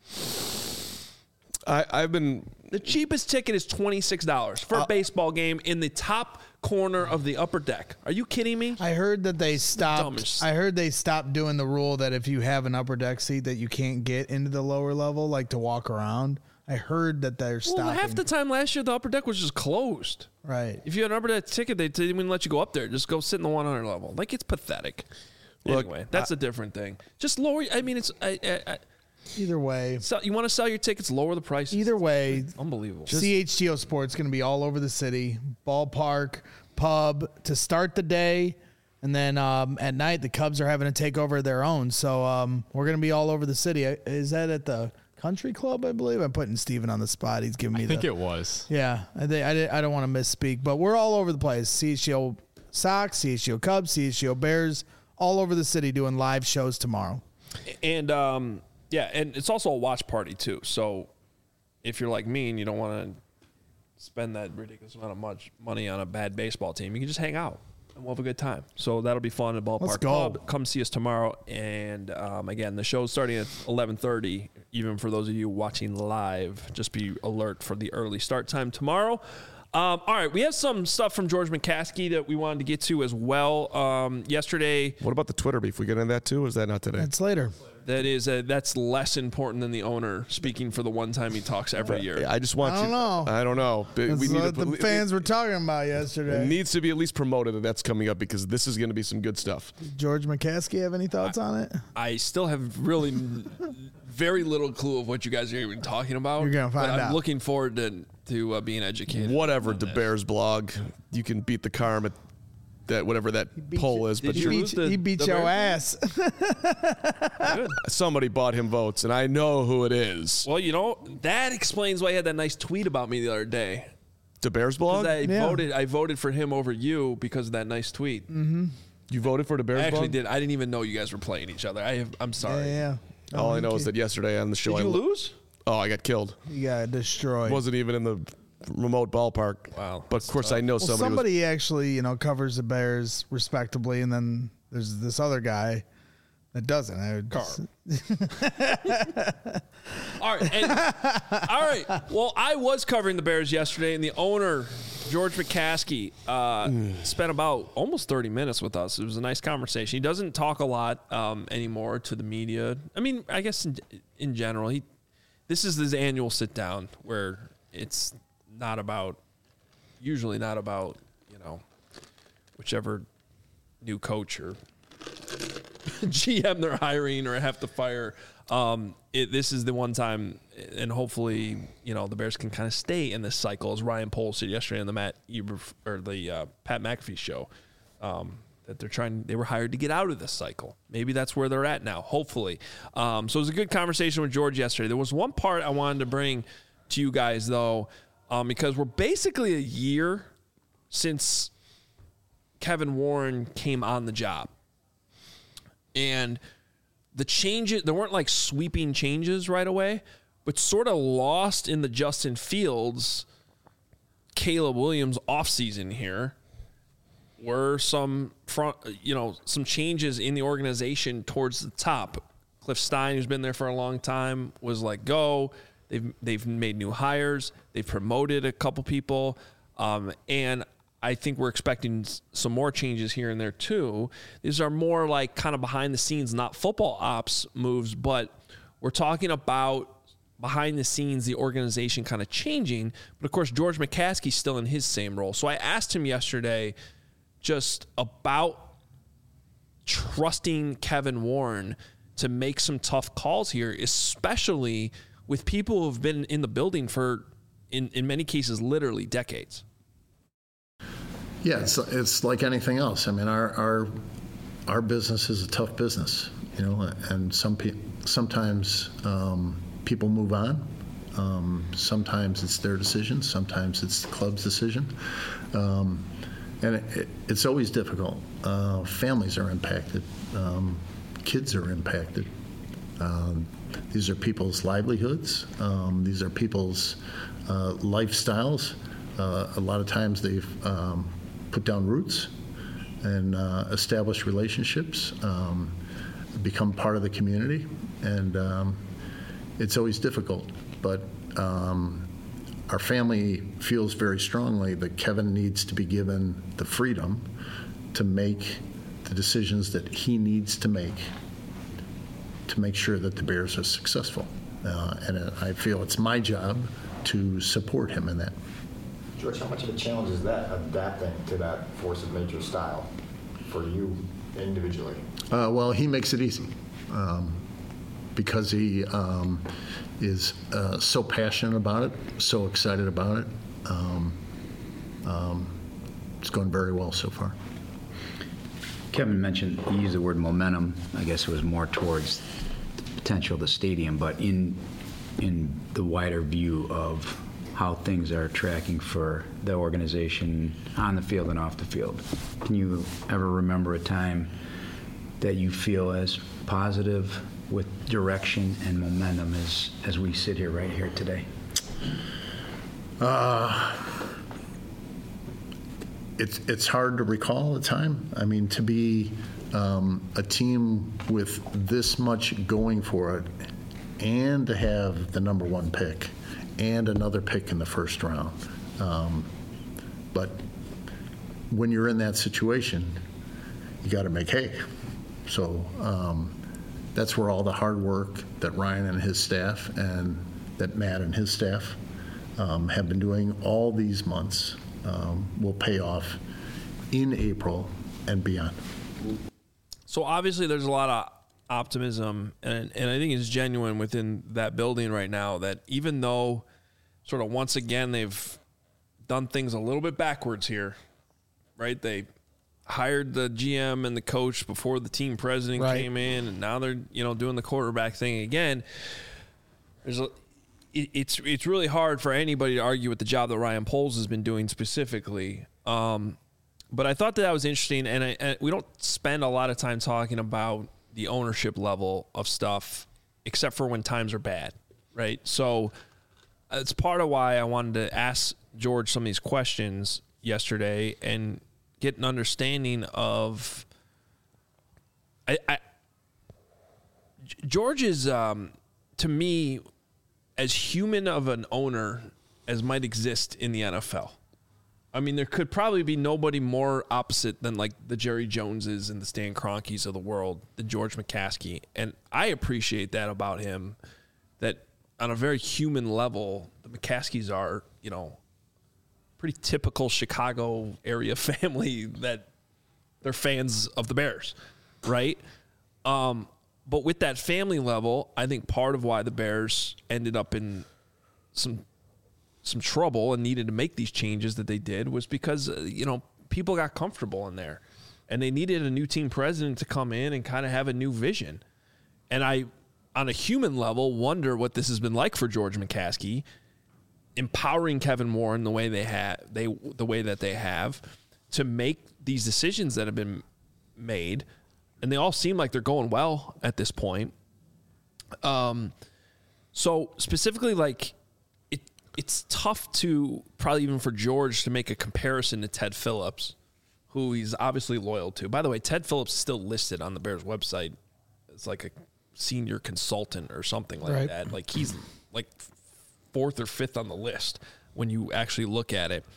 I, I've been... The cheapest ticket is twenty-six dollars for a Uh, baseball game in the top corner of the upper deck. Are you kidding me? I heard that they stopped. Dumbest. I heard they stopped doing the rule that if you have an upper deck seat that you can't get into the lower level, like to walk around. I heard that they're stopping. Well, half the time last year, the upper deck was just closed. Right. If you had an upper deck ticket, they didn't even let you go up there. Just go sit in the one hundred level. Like, it's pathetic. Look, anyway, that's a different thing. Just lower. I mean, it's. I, I, I, Either way. sell, you want to sell your tickets, lower the price. Either way, Unbelievable. C H G O Sports going to be all over the city. Ballpark, pub to start the day. And then um, at night, the Cubs are having to take over their own. So um, we're going to be all over the city. Is that at the Country Club, I believe? I'm putting Steven on the spot. He's giving me I think the, it was. Yeah, I, think, I, I don't want to misspeak, but we're all over the place. C H G O Sox, C H G O Cubs, C H G O Bears, all over the city doing live shows tomorrow. And, um, yeah, and it's also a watch party, too. So if you're like me and you don't want to spend that ridiculous amount of much money on a bad baseball team, you can just hang out and we'll have a good time. So that'll be fun at Ballpark Let's go. Club. Come see us tomorrow. And, um, again, the show's starting at eleven thirty. Even for those of you watching live, just be alert for the early start time tomorrow. Um, all right, we have some stuff from George McCaskey that we wanted to get to as well. Um, yesterday, What about the Twitter beef? We get into that, too? Or is that not today? That's later. that is uh, that's less important than the owner speaking for the one time he talks every year. I just want I don't you... know. I don't know. But That's we need what to, the fans were talking about yesterday. It needs to be at least promoted that that's coming up because this is going to be some good stuff. George McCaskey have any thoughts on it? I still have really very little clue of what you guys are even talking about. You're gonna find but I'm out. looking forward to to uh, being educated. Whatever, the Bears blog, you can beat the Carm at that whatever that poll is. Did But you He He beat, lose the- he beat the your Bears? ass. Good. somebody bought him votes, and I know who it is. Well, you know that explains why he had that nice tweet about me the other day. The Bears 'Cause blog? I Yeah. voted. I voted for him over you because of that nice tweet. Mm-hmm. You voted for the Bears I actually blog? did. I didn't even know you guys were playing each other. I have, I'm sorry. Yeah, yeah. All Oh, I know okay. is that yesterday on the show, Did you I lo- lose? Oh, I got killed. You got destroyed. Wasn't even in the remote ballpark. Wow, But of course, I know well, somebody. somebody, was, actually, you know, covers the Bears respectably, and then there's this other guy that doesn't. I would, Carr. All right. And, all right. Well, I was covering the Bears yesterday, and the owner, George McCaskey, uh, spent about almost thirty minutes with us. It was a nice conversation. He doesn't talk a lot um, anymore to the media. I mean, I guess in, in general, he this is his annual sit down where it's not about, usually not about, you know, whichever new coach or G M they're hiring or have to fire. Um, it, this is the one time, and hopefully, you know, the Bears can kind of stay in this cycle, as Ryan Poles said yesterday on the Matt Eber, or the uh, Pat McAfee show, um, that they're trying. They were hired to get out of this cycle. Maybe that's where they're at now. Hopefully, um, so it was a good conversation with George yesterday. There was one part I wanted to bring to you guys though, um, because we're basically a year since Kevin Warren came on the job. And the changes, there weren't like sweeping changes right away, but sort of lost in the Justin Fields, Caleb Williams offseason here were some front, you know, some changes in the organization towards the top. Cliff Stein, who's been there for a long time, was let go. They've they've made new hires. They've promoted a couple people, um, and I think we're expecting some more changes here and there too. These are more like kind of behind the scenes, not football ops moves, but we're talking about behind the scenes, the organization kind of changing. But of course, George McCaskey's still in his same role. So I asked him yesterday just about trusting Kevin Warren to make some tough calls here, especially with people who have been in the building for, in, in many cases, literally decades. Yeah, it's it's like anything else. I mean, our our our business is a tough business, you know, and some pe- sometimes um, people move on. Um, sometimes it's their decision. Sometimes it's the club's decision, um, and it, it, it's always difficult. Uh, families are impacted. Um, kids are impacted. Um, these are people's livelihoods. Um, these are people's uh, lifestyles. Uh, a lot of times they've um, put down roots and uh, establish relationships, um, become part of the community, and um, it's always difficult. But um, our family feels very strongly that Kevin needs to be given the freedom to make the decisions that he needs to make to make sure that the Bears are successful. Uh, and I feel it's my job to support him in that. George, how much of a challenge is that, adapting to that force of nature style for you individually? Uh, well, he makes it easy um, because he um, is uh, so passionate about it, so excited about it. Um, um, it's going very well so far. Kevin mentioned, he used the word momentum. I guess it was more towards the potential of the stadium, but in in the wider view of how things are tracking for the organization on the field and off the field. Can you ever remember a time that you feel as positive with direction and momentum as, as we sit here right here today? Uh, it's, it's hard to recall a time. I mean, to be um, a team with this much going for it and to have the number one pick and another pick in the first round. Um, but when you're in that situation, you got to make hay. So um, that's where all the hard work that Ryan and his staff and that Matt and his staff um, have been doing all these months um, will pay off in April and beyond. So obviously there's a lot of optimism, and, and I think it's genuine within that building right now that even though sort of once again they've done things a little bit backwards here, right? They hired the G M and the coach before the team president right. came in, and now they're, you know, doing the quarterback thing again. There's a, it, it's it's really hard for anybody to argue with the job that Ryan Poles has been doing specifically. Um, but I thought that, that was interesting, and, I, and we don't spend a lot of time talking about the ownership level of stuff, except for when times are bad, right? So it's part of why I wanted to ask George some of these questions yesterday and get an understanding of. I, I George is, um, to me, as human of an owner as might exist in the N F L. I mean, there could probably be nobody more opposite than like the Jerry Joneses and the Stan Kroenkes of the world than George McCaskey. And I appreciate that about him, that on a very human level, the McCaskeys are, you know, pretty typical Chicago area family that they're fans of the Bears, right? Um, but with that family level, I think part of why the Bears ended up in some some trouble and needed to make these changes that they did was because, uh, you know, people got comfortable in there and they needed a new team president to come in and kind of have a new vision. And I, on a human level, wonder what this has been like for George McCaskey, empowering Kevin Warren the way they have, they, the way that they have to make these decisions that have been made. And they all seem like they're going well at this point. Um, so specifically, like, it's tough to, probably even for George, to make a comparison to Ted Phillips, who he's obviously loyal to. By the way, Ted Phillips is still listed on the Bears website as like a senior consultant or something like right. that. Like he's like fourth or fifth on the list when you actually look at it.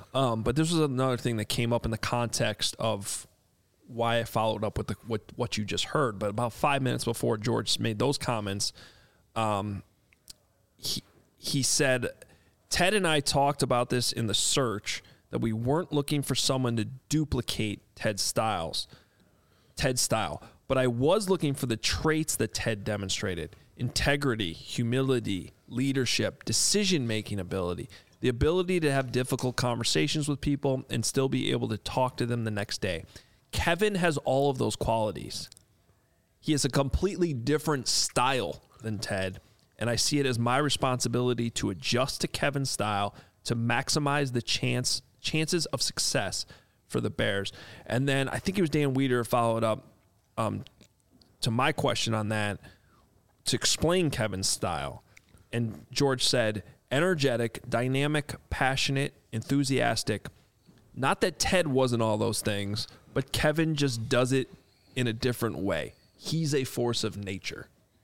Um, but this was another thing that came up in the context of why I followed up with the, what, what you just heard. But about five minutes before George made those comments, um, he, he said, Ted and I talked about this in the search, that we weren't looking for someone to duplicate Ted's styles, Ted's style. But I was looking for the traits that Ted demonstrated: integrity, humility, leadership, decision-making ability, the ability to have difficult conversations with people and still be able to talk to them the next day. Kevin has all of those qualities. He has a completely different style than Ted, and I see it as my responsibility to adjust to Kevin's style to maximize the chance chances of success for the Bears. And then I think it was Dan Weeder followed up um, to my question on that to explain Kevin's style. And George said, energetic, dynamic, passionate, enthusiastic. Not that Ted wasn't all those things, but Kevin just does it in a different way. He's a force of nature.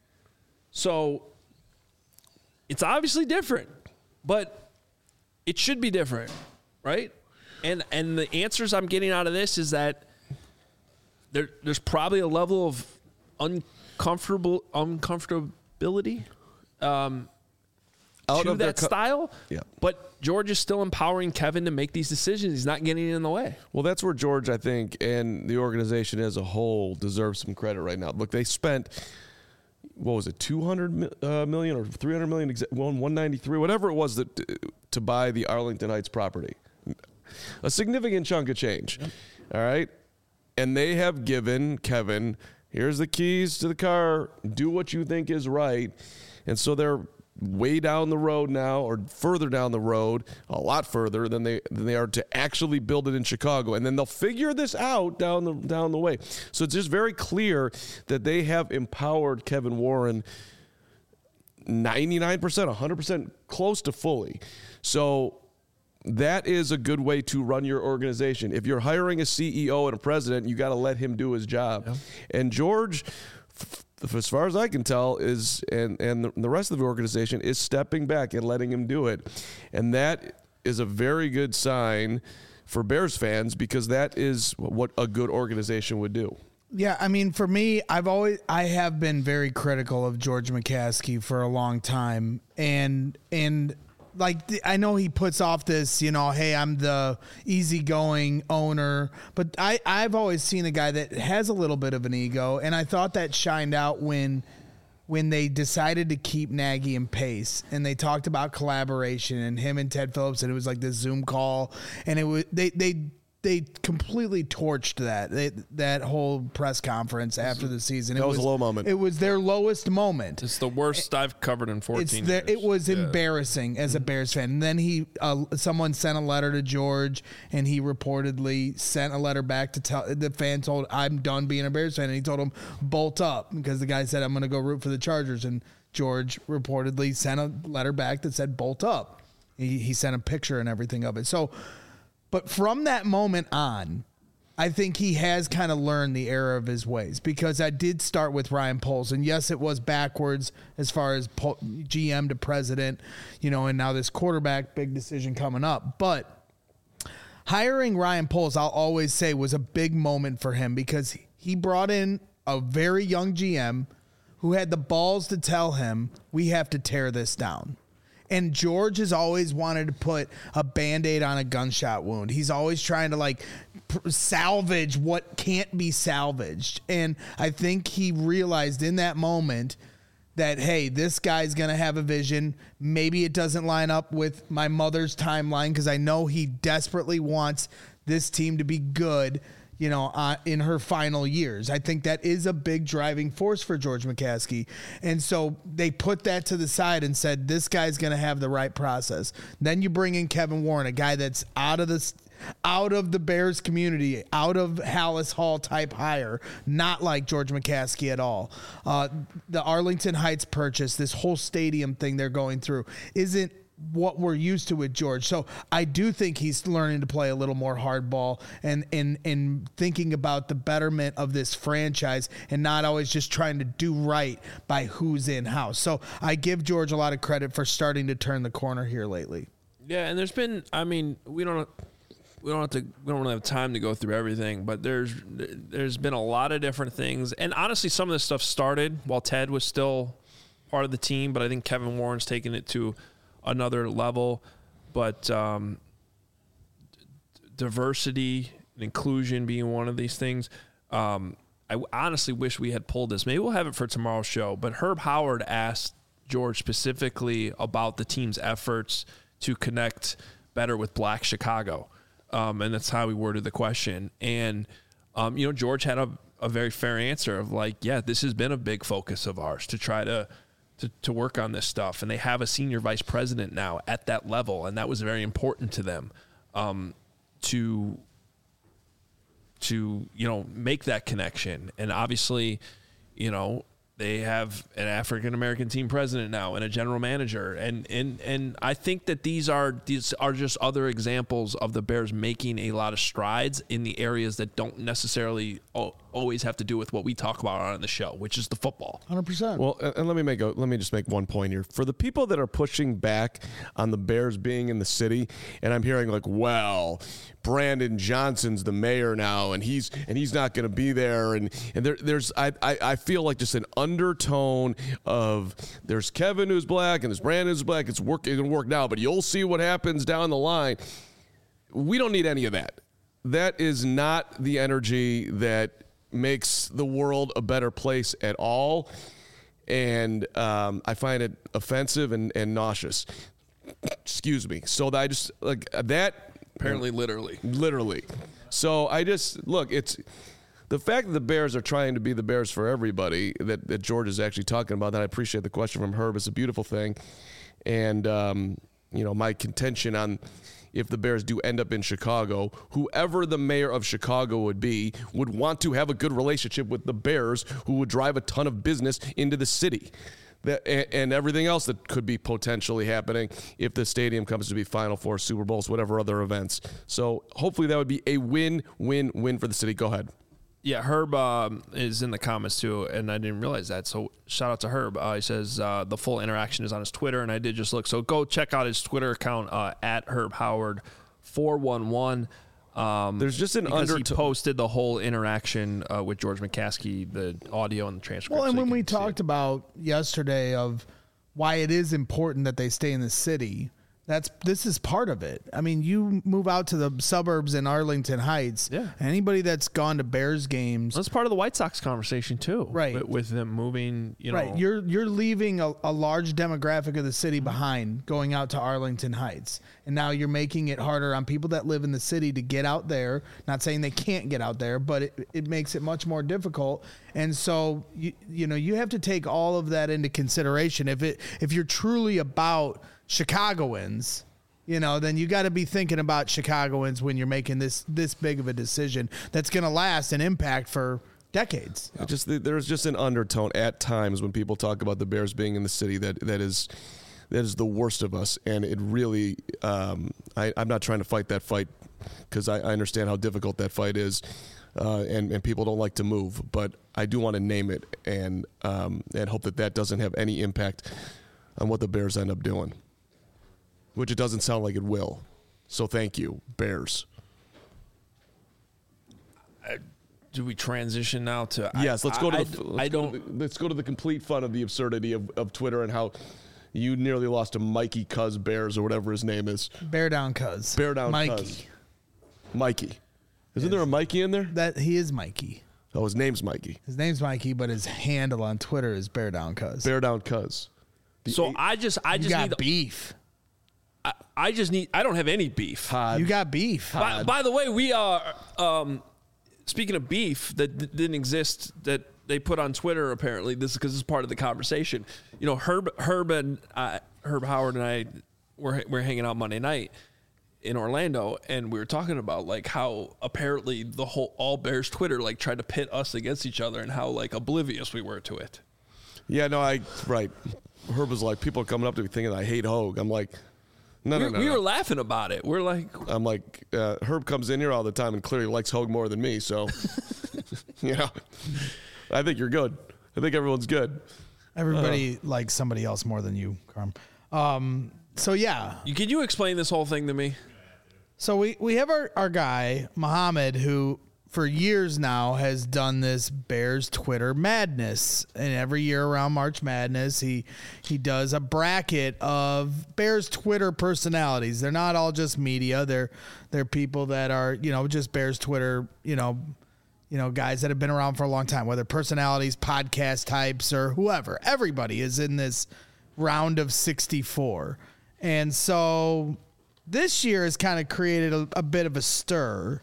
So it's obviously different, but it should be different, right? And and the answers I'm getting out of this is that there there's probably a level of uncomfortable uncomfortability um, Out to of their that co- style. Yeah. But George is still empowering Kevin to make these decisions. He's not getting in the way. Well, that's where George, I think, and the organization as a whole deserves some credit right now. Look, they spent, what was it, two hundred uh, million or three hundred million, well, one ninety-three, whatever it was that to buy the Arlington Heights property. A significant chunk of change. Yep. All right. And they have given Kevin, here's the keys to the car, do what you think is right. And so they're way down the road now, or further down the road, a lot further than they than they are to actually build it in Chicago. And then they'll figure this out down the down the way. So it's just very clear that they have empowered Kevin Warren ninety-nine percent, one hundred percent, close to fully. So that is a good way to run your organization. If you're hiring a C E O and a president, you got to let him do his job. Yeah. And George, f- as far as I can tell, is and and the rest of the organization is stepping back and letting him do it. And that is a very good sign for Bears fans, because that is what a good organization would do. Yeah, I mean, for me, I've always I have been very critical of George McCaskey for a long time, and and. Like, I know he puts off this, you know, hey, I'm the easygoing owner, but I, I've always seen a guy that has a little bit of an ego, and I thought that shined out when when they decided to keep Nagy and Pace, and they talked about collaboration and him and Ted Phillips, and it was like this Zoom call, and it was they they they completely torched that they, that whole press conference after the season. That it was, was a low moment. It was their lowest moment. It's the worst it, I've covered in fourteen it's the, years. It was yeah. embarrassing as a Bears fan. And then he, uh, someone sent a letter to George, and he reportedly sent a letter back to tell the fan told, I'm done being a Bears fan. And he told him, bolt up, because the guy said, I'm going to go root for the Chargers. And George reportedly sent a letter back that said, bolt up. He, he sent a picture and everything of it. So, but from that moment on, I think he has kind of learned the error of his ways, because I did start with Ryan Poles, and yes, it was backwards as far as G M to president, you know, and now this quarterback, big decision coming up. But hiring Ryan Poles, I'll always say, was a big moment for him, because he brought in a very young G M who had the balls to tell him, we have to tear this down. And George has always wanted to put a Band-Aid on a gunshot wound. He's always trying to, like, pr- salvage what can't be salvaged. And I think he realized in that moment that, hey, this guy's going to have a vision. Maybe it doesn't line up with my mother's timeline, because I know he desperately wants this team to be good, you know, uh, in her final years. I think that is a big driving force for George McCaskey. And so they put that to the side and said, this guy's going to have the right process. Then you bring in Kevin Warren, a guy that's out of the, out of the Bears community, out of Hallis Hall type hire, not like George McCaskey at all. Uh, the Arlington Heights purchase, this whole stadium thing they're going through, isn't what we're used to with George. So I do think he's learning to play a little more hardball and, and, and thinking about the betterment of this franchise, and not always just trying to do right by who's in house. So I give George a lot of credit for starting to turn the corner here lately. Yeah. And there's been, I mean, we don't, we don't have to we don't really have time to go through everything, but there's there's been a lot of different things, and honestly, some of this stuff started while Ted was still part of the team, but I think Kevin Warren's taken it to another level. But um, diversity and inclusion being one of these things. Um, I honestly wish we had pulled this. Maybe we'll have it for tomorrow's show. But Herb Howard asked George specifically about the team's efforts to connect better with Black Chicago. Um, and that's how we worded the question. And, um, you know, George had a, a very fair answer of like, yeah, this has been a big focus of ours to try to, to, to work on this stuff. And they have a senior vice president now at that level. And that was very important to them, um, to, to, you know, make that connection. And obviously, you know, they have an African-American team president now and a general manager. And, and, and I think that these are, these are just other examples of the Bears making a lot of strides in the areas that don't necessarily always have to do with what we talk about on the show, which is the football. one hundred percent. Well, and let me make a, let me just make one point here. For the people that are pushing back on the Bears being in the city, and I'm hearing like, well, Brandon Johnson's the mayor now, and he's and he's not going to be there, and and there, there's I, I I feel like just an undertone of there's Kevin who's black and there's Brandon who's black. It's work it can work now, but you'll see what happens down the line. We don't need any of that. That is not the energy that makes the world a better place at all, and um, I find it offensive and, and nauseous. Excuse me. So I just like that. Apparently, literally. Literally. So I just, look, it's the fact that the Bears are trying to be the Bears for everybody that, that George is actually talking about, that I appreciate the question from Herb. It's a beautiful thing. And, um, you know, my contention on if the Bears do end up in Chicago, whoever the mayor of Chicago would be would want to have a good relationship with the Bears, who would drive a ton of business into the city. That, and everything else that could be potentially happening if the stadium comes to be Final Four, Super Bowls, whatever other events. So hopefully that would be a win, win, win for the city. Go ahead. Yeah, Herb um, is in the comments too, and I didn't realize that. So shout out to Herb. Uh, he says uh, the full interaction is on his Twitter, and I did just look. So go check out his Twitter account uh, at Herb Howard four one one. Um, There's just an under. under. He posted the whole interaction uh, with George McCaskey, the audio and the transcript. Well, and so when we can see talked it. about yesterday of why it is important that they stay in the city, that's this is part of it. I mean, you move out to the suburbs in Arlington Heights. Yeah. Anybody that's gone to Bears games, That's part of the White Sox conversation too, Right. With, with them moving, you know, right? You're you're leaving a, a large demographic of the city behind, going out to Arlington Heights, and now you're making it harder on people that live in the city to get out there. Not saying they can't get out there, but it, it makes it much more difficult. And so you you know you have to take all of that into consideration. If it if you're truly about Chicagoans, you know, then you got to be thinking about Chicagoans when you're making this this big of a decision that's going to last and impact for decades. It just there's just an undertone at times when people talk about the Bears being in the city that that is that is the worst of us, and it really um, I, I'm not trying to fight that fight because I, I understand how difficult that fight is, uh, and and people don't like to move, but I do want to name it and um, and hope that that doesn't have any impact on what the Bears end up doing, which it doesn't sound like it will. So thank you, Bears. do we transition now to? Yes, I, let's go to I, the. I, Let's I go don't. to the, let's go to the complete fun of the absurdity of, of Twitter and how you nearly lost to Mikey Cuz Bears or whatever his name is. Bear down, cuz. Bear down, Mikey. Cuz. Mikey. Isn't there a Mikey in there? That he is Mikey. Oh, his name's Mikey. His name's Mikey, but his handle on Twitter is Bear down, cuz. Bear down, Cuz. The So eight- I just, I You just got need. beef. I, I just need. I don't have any beef. Pod. You got beef. By, by the way, we are. Um, speaking of beef that d- didn't exist, that they put on Twitter. Apparently, this is because this is part of the conversation. You know, Herb, Herb and uh, Herb Howard and I were we're hanging out Monday night in Orlando, and we were talking about like how apparently the whole all Bears Twitter like tried to pit us against each other, and how like oblivious we were to it. Yeah, no, I right. Herb was like, people are coming up to me thinking I hate Hogue. I'm like, no, we, no, no. we no. were laughing about it. We're like, I'm like, uh, Herb comes in here all the time and clearly likes Hogue more than me. So, you know, I think you're good. I think everyone's good. Everybody likes somebody else more than you, Carm. Um, so yeah, can you explain this whole thing to me? So we, we have our, our guy, Muhammad, who for years now has done this Bears Twitter madness. And every year around March Madness, he he does a bracket of Bears Twitter personalities. They're not all just media. They're they're people that are, you know, just Bears Twitter, you know, you know, guys that have been around for a long time, whether personalities, podcast types, or whoever. Everybody is in this round of sixty-four. And so this year has kind of created a, a bit of a stir,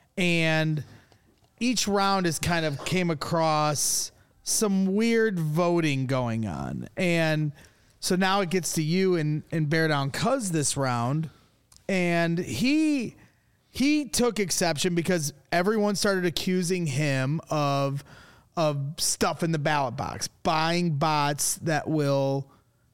and each round has kind of came across some weird voting going on. And so now it gets to you and, and Bear Down Cuz this round. And he he took exception because everyone started accusing him of of stuff in the ballot box, buying bots that will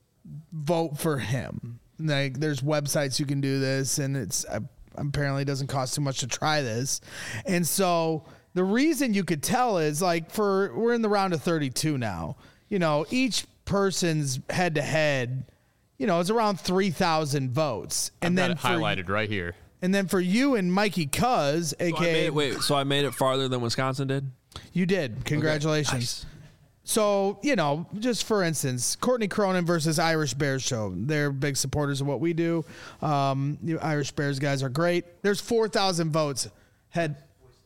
vote for him. Like, there's websites you can do this, and it's uh, apparently doesn't cost too much to try this. And so the reason you could tell is, like, for we're in the round of thirty-two now. You know, each person's head to head, you know, is around three thousand votes. And I've then got it highlighted right here. And then for you and Mikey Cuz, aka So I made it, wait, so I made it farther than Wisconsin did? You did. Congratulations. Okay, nice. So, you know, just for instance, Courtney Cronin versus Irish Bears show. They're big supporters of what we do. Um, you Irish Bears guys are great. There's four thousand votes. Head.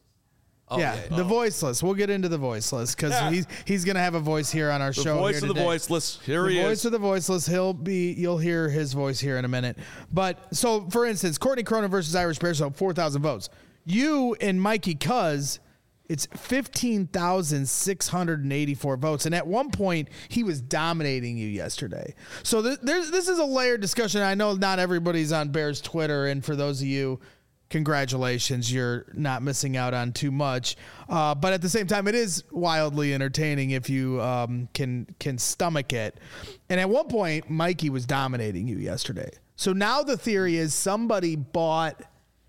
Oh, yeah, yeah, yeah. the voiceless. We'll get into the voiceless because Yeah. he's he's gonna have a voice here on our The show. voice here of the today. voiceless. Here the he voice is. of the voiceless. He'll be. You'll hear his voice here in a minute. But so, for instance, Courtney Cronin versus Irish Bears show. Four thousand votes. You and Mikey Cuz. It's fifteen thousand six hundred eighty-four votes. And at one point, he was dominating you yesterday. So th- there's, this is a layered discussion. I know not everybody's on Bears Twitter. And for those of you, congratulations. You're not missing out on too much. Uh, but at the same time, it is wildly entertaining if you um, can, can stomach it. And at one point, Mikey was dominating you yesterday. So now the theory is somebody bought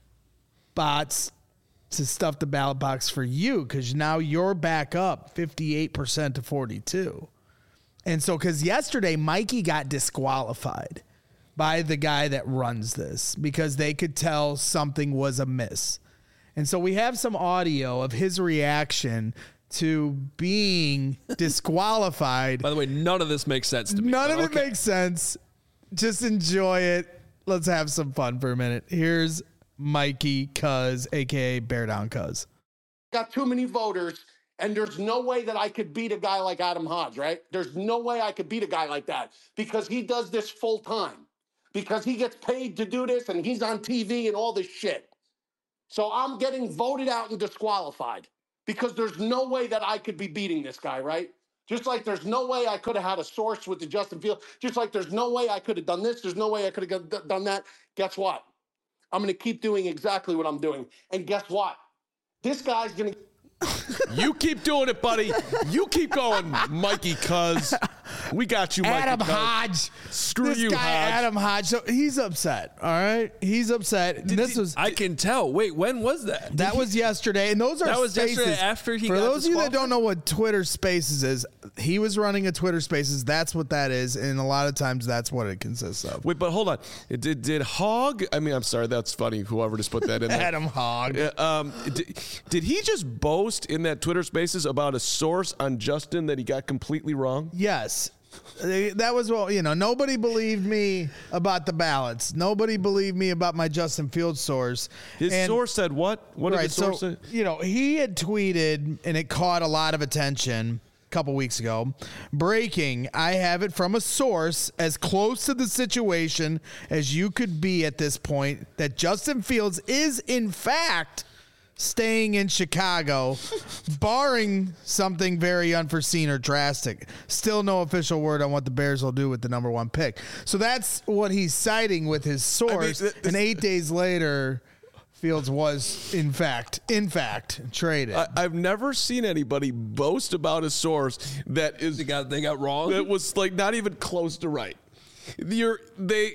bots to stuff the ballot box for you, because now you're back up fifty-eight percent to forty-two. And so, because yesterday Mikey got disqualified by the guy that runs this because they could tell something was amiss. And so we have some audio of his reaction to being disqualified. By the way, none of this makes sense to me. None but of okay. it makes sense. Just enjoy it. Let's have some fun for a minute. Here's Mikey Cuz, a k a. Bear Down Cuz. Got too many voters, and there's no way that I could beat a guy like Adam Hodge, right? There's no way I could beat a guy like that because he does this full time, because he gets paid to do this, and he's on T V and all this shit. So I'm getting voted out and disqualified because there's no way that I could be beating this guy, right? Just like there's no way I could have had a source with the Justin Fields. Just like there's no way I could have done this. There's no way I could have done that. Guess what? I'm going to keep doing exactly what I'm doing. And guess what? This guy's going to... You keep doing it, buddy. You keep going, Mikey Cuz. We got you, Mikey Adam Cuz. Hodge. Screw this you, guy, Hodge. Adam Hodge. So he's upset. All right, he's upset. And this was I can tell. Wait, when was that? that was yesterday, and those are That was spaces. yesterday after he For got those of you that disqualified? don't know what Twitter Spaces is, he was running a Twitter Spaces. That's what that is, and a lot of times that's what it consists of. Wait, but hold on. It did, did Hogg? I mean, I'm sorry. That's funny. Whoever just put that in there. Adam Hogg. Uh, Um, did, did he just boast in that Twitter Spaces about a source on Justin that he got completely wrong? Yes. They- That was what, you know, nobody believed me about the ballots. Nobody believed me about my Justin Fields source. His And- source said what? What did right, the source so, say? you know, he had tweeted, and it caught a lot of attention a couple weeks ago. Breaking, I have it from a source as close to the situation as you could be at this point, that Justin Fields is, in fact, staying in Chicago, barring something very unforeseen or drastic. Still no official word on what the Bears will do with the number one pick. So that's what he's citing with his source. th- and eight days later, Fields was, in fact, in fact, traded. I, I've never seen anybody boast about a source that is They got they got wrong. that was like not even close to right. You're they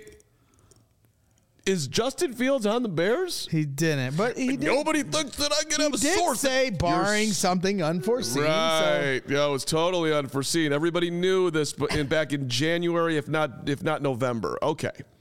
is Justin Fields on the Bears? he didn't, but he did. Nobody thinks that I can He have a did source. say You're barring s- something unforeseen. So Right. Yeah, it was totally unforeseen. Everybody knew this but in, back in January, if not if not November. Okay.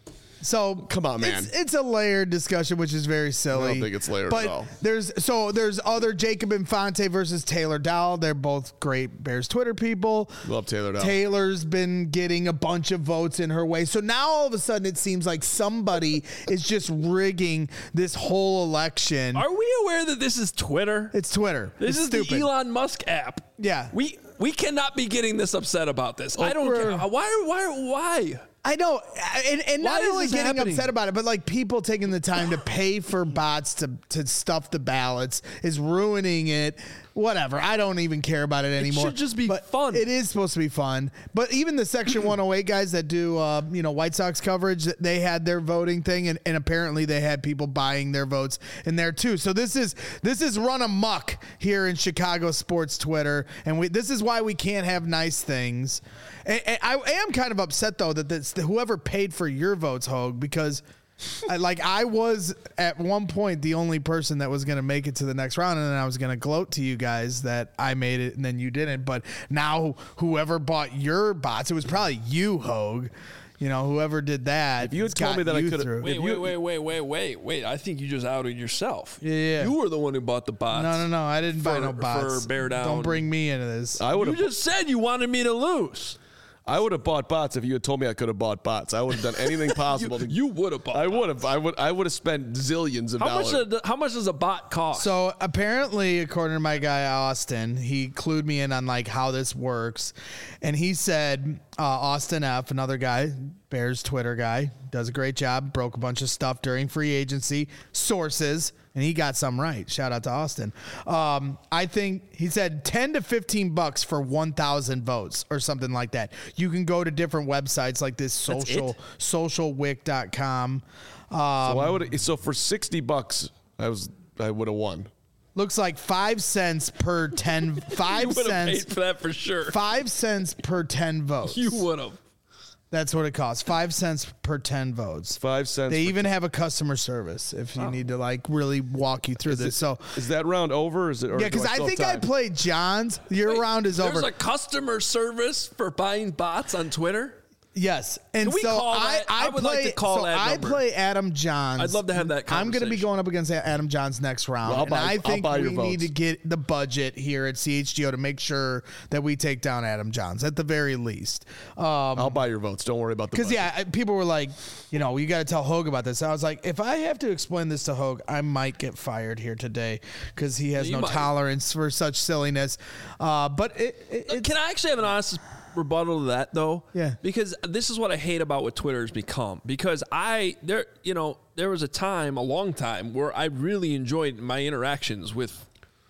So come on, man. It's, it's a layered discussion, which is very silly. I don't think it's layered but at all. There's so there's other Jacob Infante versus Taylor Dowell. They're both great Bears Twitter people. Love Taylor Dowell. Taylor's been getting a bunch of votes in her way. So now all of a sudden it seems like somebody is just rigging this whole election. Are we aware that this is Twitter? It's Twitter. This it's is stupid. the Elon Musk app. Yeah. We we cannot be getting this upset about this. I don't We're- care. Why why why? I know, and, and Why not is only this getting happening? upset about it, but like people taking the time to pay for bots to, to stuff the ballots is ruining it. Whatever. I don't even care about it anymore. should just be But fun. It is supposed to be fun. But even the Section one oh eight guys that do, uh, you know, White Sox coverage, they had their voting thing, and, and apparently they had people buying their votes in there too. So this is this is run amok here in Chicago sports Twitter, and we this is why we can't have nice things. And, and I am kind of upset though that this, whoever paid for your votes, Hogue, because. I, like I was at one point the only person that was going to make it to the next round, and then I was going to gloat to you guys that I made it and then you didn't. But now whoever bought your bots, it was probably you, Hogue. You know, whoever did that. If you had told me that I could have, Wait, wait, wait, wait, wait, wait, wait. I think you just outed yourself. Yeah, yeah. You were the one who bought the bots. No, no, no. I didn't buy For- no bots. for Bear Down. Don't bring me into this. I would You have. just said you wanted me to lose. I would have bought bots if you had told me I could have bought bots. I would have done anything possible. You, to, you would have bought. I would bots. have. I would. I would have spent zillions of How dollars. much? Does, how much does a bot cost? So apparently, according to my guy Austin, he clued me in on like how this works, and he said uh, Austin F, another guy, Bears Twitter guy, does a great job. Broke a bunch of stuff during free agency. Sources. And he got some right. Shout out to Austin. Um, I think he said ten to fifteen bucks for one thousand votes or something like that. You can go to different websites like this That's social it? social wick dot com. Um, so I would. So for sixty bucks, I was. I would have won. looks like five cents per ten. you Five would have cents. paid for that for sure. Five cents per ten votes. You would have. That's what it costs. Five cents per ten votes. Five cents. They for even have a customer service if you need to like really walk you through Is this. it- So is that round over? Or is it? Or yeah, do because I still think have I time? played John's. Your Wait, round is There's over. a customer service for buying bots on Twitter. Yes, and Can we so call I, that? I, I would play, like to call so that I number. play Adam Johns. I'd love to have that I'm going to be conversation. going up against Adam Johns next round, Well, I'll and buy- I I'll think buy we your need votes. to get the budget here at C H G O to make sure that we take down Adam Johns at the very least. Um, I'll buy your votes. Don't worry about the. Because budget. yeah, I- people were like, you know, you got to tell Hogue about this. I was like, if I have to explain this to Hogue, I might get fired here today because he has You no might. tolerance for such silliness. Uh, but it, it, it's, Can I actually have an honest rebuttal to that though? Yeah. Because this is what I hate about what Twitter has become. Because I there you know, there was a time, a long time, where I really enjoyed my interactions with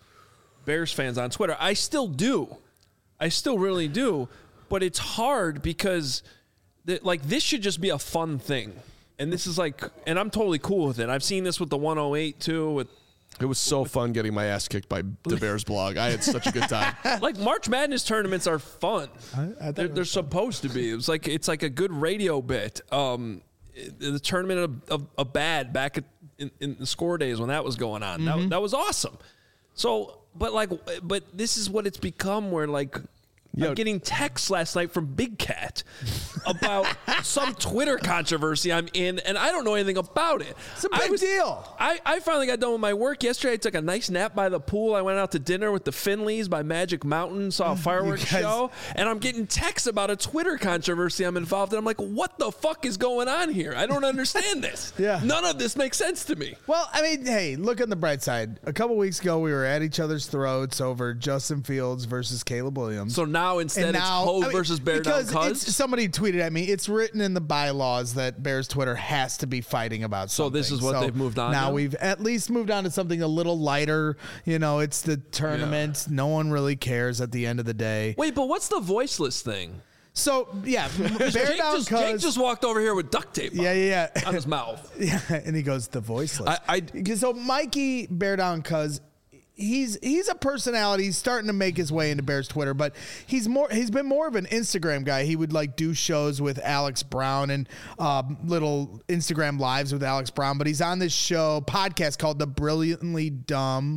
Bears fans on Twitter. I still do. I still really do. But it's hard because the, like this should just be a fun thing. And this is like and I'm totally cool with it. I've seen this with the one oh eight too with It was so fun getting my ass kicked by the Bears blog. I had such a good time. like March Madness tournaments are fun. I thought they're it was they're supposed to be. It was like it's like a good radio bit. Um, the tournament of, of, of bad back at, in, in the score days when that was going on. Mm-hmm. That that was awesome. So, but like, but this is what it's become. Where like. Yo. I'm getting texts last night from Big Cat about some Twitter controversy I'm in, and I don't know anything about it. It's a I big was- deal. I, I finally got done with my work yesterday. I took a nice nap by the pool. I went out to dinner with the Finleys by Magic Mountain, saw a fireworks guys- show, and I'm getting texts about a Twitter controversy I'm involved in. I'm like, what the fuck is going on here? I don't understand this. Yeah. None of this makes sense to me. Well, I mean, hey, look on the bright side. A couple weeks ago, we were at each other's throats over Justin Fields versus Caleb Williams. So now instead And it's now- Ho I mean, versus Bear Down because Cuz. it's- somebody tweeted at me. It's written in the bylaws that Bears Twitter has to be fighting about So something. this is what they've moved on Now to? we've at least moved on to something a little lighter. You know, it's the tournament. No one really cares at the end of the day. Wait, but what's the voiceless thing? So yeah, Bear Jake Down just, Jake Cuz. just walked over here with duct tape Yeah, yeah, yeah. on his mouth. Yeah, and he goes the voiceless. I- so Mikey Bear Down Cuz he's he's a personality. He's starting to make his way into Bears Twitter, but he's more he's been more of an Instagram guy. He would like do shows with Alex Brown and um, little Instagram lives with Alex Brown. But he's on this show podcast called The Brilliantly Dumb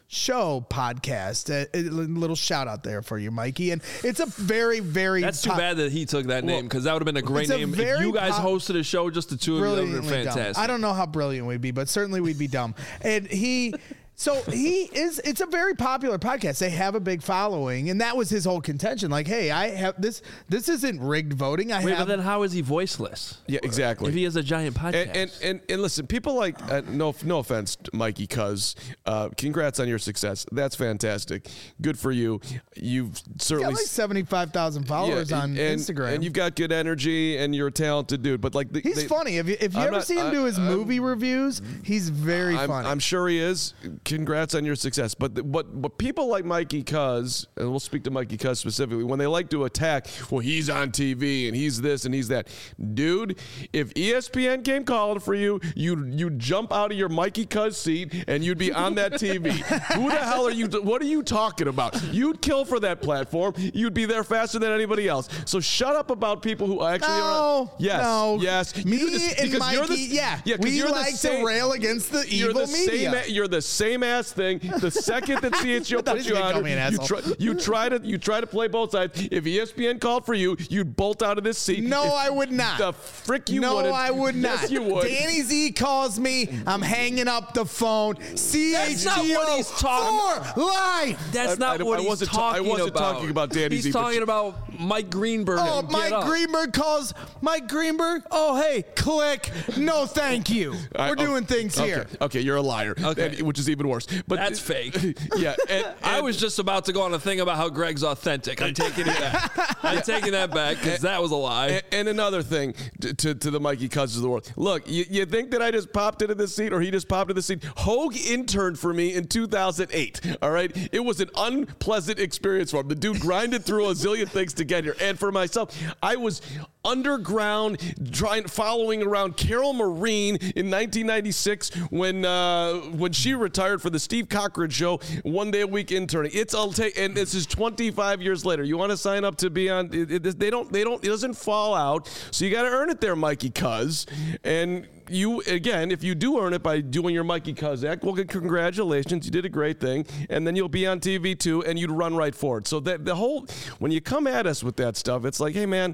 Show podcast. A, a little shout out there for you, Mikey. And it's a very, very. That's too top, bad that he took that name because that would have been a great a name. If you guys pop, hosted a show, just the two of you, that would have been fantastic. Dumb. I don't know how brilliant we'd be, but certainly we'd be dumb. And he. So he is, it's a very popular podcast. They have a big following, and that was his whole contention. Like, hey, I have this, this isn't rigged voting. I Wait, have. but then how is he voiceless? Yeah, exactly. If he has a giant podcast. And and, and, and listen, people like, uh, no no offense, Mikey Cuz, uh, congrats on your success. That's fantastic. Good for you. You've certainly. He's got like seventy-five thousand followers yeah, on and, Instagram. And you've got good energy, and you're a talented dude. But like, the, he's they, funny. If you, if you I'm ever not, see him I, do his I'm, movie reviews, he's very I'm, funny. I'm sure he is. Congrats on your success. But the, but but people like Mikey Cuz, and we'll speak to Mikey Cuz specifically, when they like to attack, well, he's on T V and he's this and he's that. Dude, if E S P N came calling for you, you'd you'd jump out of your Mikey Cuz seat and you'd be on that T V. Who the hell are you? What are you talking about? You'd kill for that platform. You'd be there faster than anybody else. So shut up about people who actually no, are. Yes, no. yes. Me You do this and because Mikey, you're the, yeah, yeah we you're like the same, to rail against the you're evil the media. Same, you're the same ass thing. The second that C H G O I thought puts he was you gonna on, call me an you asshole. try, you try to you try to play both sides. If E S P N called for you, you'd bolt out of this seat. No, if, I would not. The frick you no, wouldn't. I would not. Yes, you would. Danny Z calls me. I'm hanging up the phone. C H G O That's not what he's talking- for life. That's I- not I- what I he's wasn't ta- talking I wasn't about. talking about Danny He's Z, but talking you- about Mike Greenberg. Oh, and Get Mike Up. Greenberg calls Mike Greenberg. Oh, hey, click. No, thank you. I- We're oh, doing things okay, here. Okay, you're a liar. Okay. And- which is even worse. But That's fake. Yeah, and, I and- was just about to go on a thing about how Greg's authentic. I'm taking it back. I'm taking that back because that was a lie. And, and another thing to, to, to the Mikey Cuz of the world. Look, you, you think that I just popped into this seat or he just popped into the seat? Hogue interned for me in two thousand eight. All right. It was an unpleasant experience for him. The dude grinded through a zillion things to get here. And for myself, I was underground trying following around Carol Marine in nineteen ninety-six when uh, when she retired for the Steve Cochran show, one day a week interning. It's I'll take and this is twenty-five years later. You want to sign up to be on it, it, they don't they don't it doesn't fall out. So you got to earn it there, Mikey Cuz. And you again, if you do earn it by doing your Mikey Cuz act, well, congratulations, you did a great thing, and then you'll be on T V too, and you'd run right for it. So that the whole when you come at us with that stuff, it's like, hey man.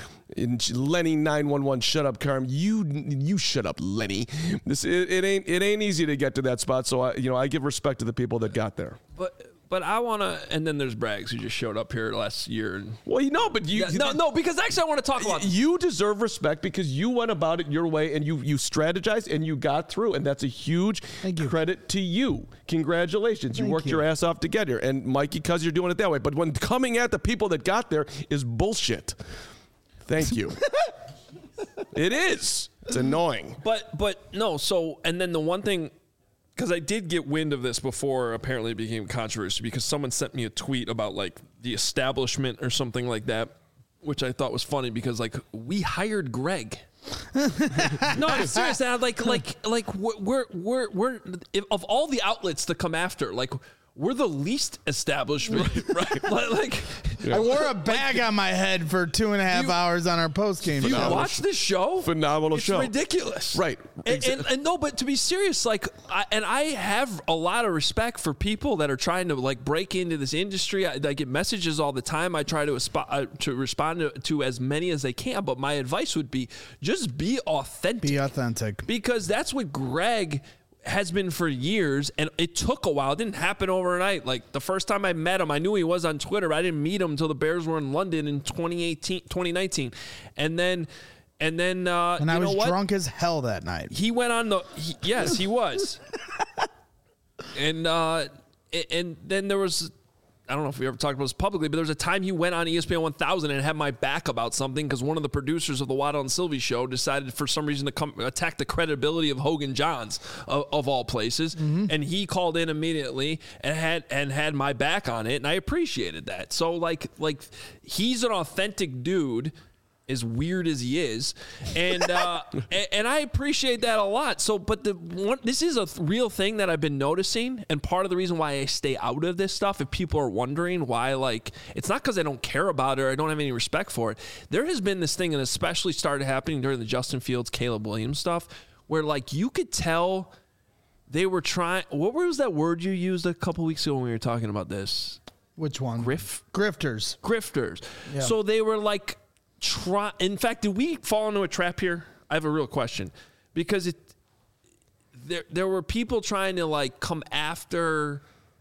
And Lenny nine one one, shut up, Carm. You you shut up, Lenny. This it, it ain't it ain't easy to get to that spot. So I you know I give respect to the people that got there. But but I want to, and then there's Braggs who just showed up here last year. And, Well, you know, but you Yeah, no, no, because actually I want to talk about. you deserve respect because you went about it your way and you you strategized and you got through, and that's a huge Thank you. credit to you. Congratulations, you Thank worked you. your ass off to get here, and Mikey, cuz you're doing it that way. But when coming at the people that got there is bullshit. Thank you. It is. It's annoying. But but no, so and then the one thing, because I did get wind of this before apparently it became controversy because someone sent me a tweet about like the establishment or something like that, which I thought was funny because like we hired Greg. No, I'm serious. And I'm like like like we're we're we're if, of all the outlets to come after, like we're the least establishment, right? Like, like I wore a bag on my head for two and a half You- hours on our post game do you show. watch this show? Phenomenal it's show. ridiculous, Right. And, and, and no, but to be serious, like, I, and I have a lot of respect for people that are trying to like break into this industry. I, I get messages all the time. I try to asp- uh, to respond to, to as many as they can. But my advice would be just be authentic. Be authentic. Because that's what Greg has been for years, and it took a while. It didn't happen overnight. Like the first time I met him, I knew he was on Twitter. I didn't meet him until the Bears were in London in twenty eighteen, twenty nineteen. And then and then uh And you I know was what? drunk as hell that night. He went on the he, yes, he was. and uh and, and then there was I don't know if we ever talked about this publicly, but there was a time he went on E S P N one thousand and had my back about something because one of the producers of the Waddle and Sylvie show decided for some reason to come attack the credibility of Hogan Johns of, of all places, Mm-hmm. and he called in immediately and had and had my back on it, and I appreciated that. So like like he's an authentic dude. As weird as he is, and uh, and, and I appreciate that a lot. So, but the one, this is a th- real thing that I've been noticing, and part of the reason why I stay out of this stuff, if people are wondering why, like, it's not because I don't care about it or I don't have any respect for it. There has been this thing, and especially started happening during the Justin Fields, Caleb Williams stuff, where like you could tell they were trying. What was that word you used a couple weeks ago when we were talking about this? Which one? Griff? Grifters. Grifters. Yeah. So they were like, try. In fact, did we fall into a trap here? I have a real question because it. There, there were people trying to like come after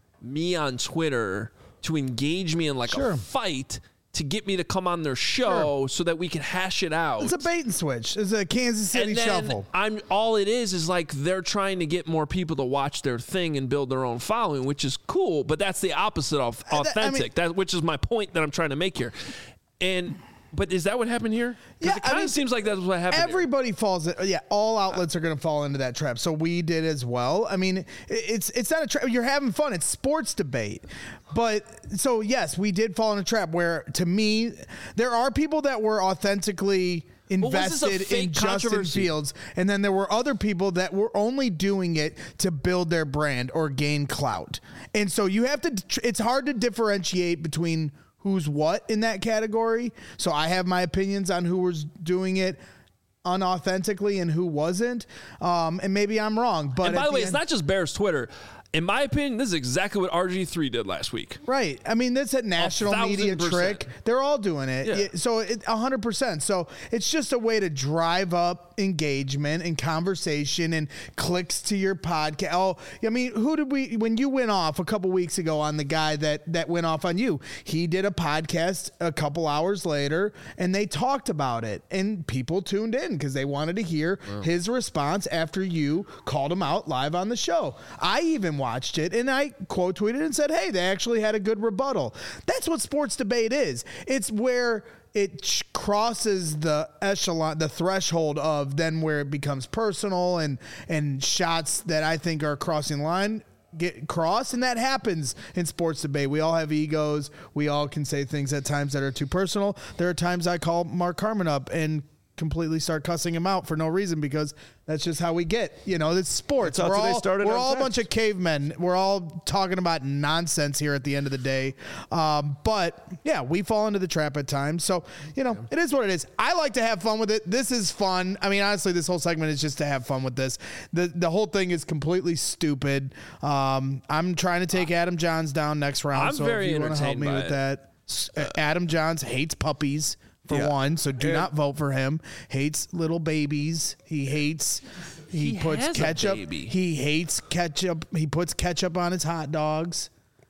me on Twitter to engage me in like Sure. a fight to get me to come on their show Sure. so that we could hash it out. It's a bait and switch. It's a Kansas City and then shuffle. I'm all it is is like they're trying to get more people to watch their thing and build their own following, which is cool, but that's the opposite of I authentic. mean- that which is my point that I'm trying to make here. And but is that what happened here? 'Cause Yeah, it I kind mean, of seems like that's what happened. here. Everybody falls. Yeah, all outlets are going to fall into that trap. So we did as well. I mean, it- it's it's not a trap. You're having fun. It's sports debate. But so yes, we did fall in a trap where, to me, there are people that were authentically But was this a invested in fake Justin controversy? Fields, and then there were other people that were only doing it to build their brand or gain clout. And so you have to. It's hard to differentiate between who's what in that category. So I have my opinions on who was doing it unauthentically and who wasn't. Um, and maybe I'm wrong. But And by at the way, end- it's not just Bears Twitter. In my opinion, this is exactly what R G three did last week. Right. I mean, that's a national thousand media percent. trick. They're all doing it. Yeah. Yeah, So it, one hundred percent. So it's just a way to drive up engagement and conversation and clicks to your podcast. Oh, I mean, who did we, when you went off a couple weeks ago on the guy that, that went off on you, he did a podcast a couple hours later and they talked about it and people tuned in because they wanted to hear his response after you called him out live on the show. I even watched it and I quote tweeted and said, hey, they actually had a good rebuttal. That's what sports debate is. It's where it ch- crosses the echelon, the threshold of then where it becomes personal and, and shots that I think are crossing the line get crossed. And that happens in sports debate. We all have egos. We all can say things at times that are too personal. There are times I call Mark Carman up and completely start cussing him out for no reason because that's just how we get. You know, it's sports. That's how We're they all, started we're on all a text. bunch of cavemen. We're all talking about nonsense here at the end of the day. Um, but yeah, we fall into the trap at times. So, you know, it is what it is. I like to have fun with it. This is fun. I mean, honestly, this whole segment is just to have fun with this. The the whole thing is completely stupid. Um, I'm trying to take Adam Johns down next round. I'm so very if you want to help entertained me by with it. that. S- uh, Adam Johns hates puppies. For Yeah. one, so do And- not vote for him. Hates little babies. He hates. He, He puts has a ketchup. baby. He hates ketchup. He puts ketchup on his hot dogs.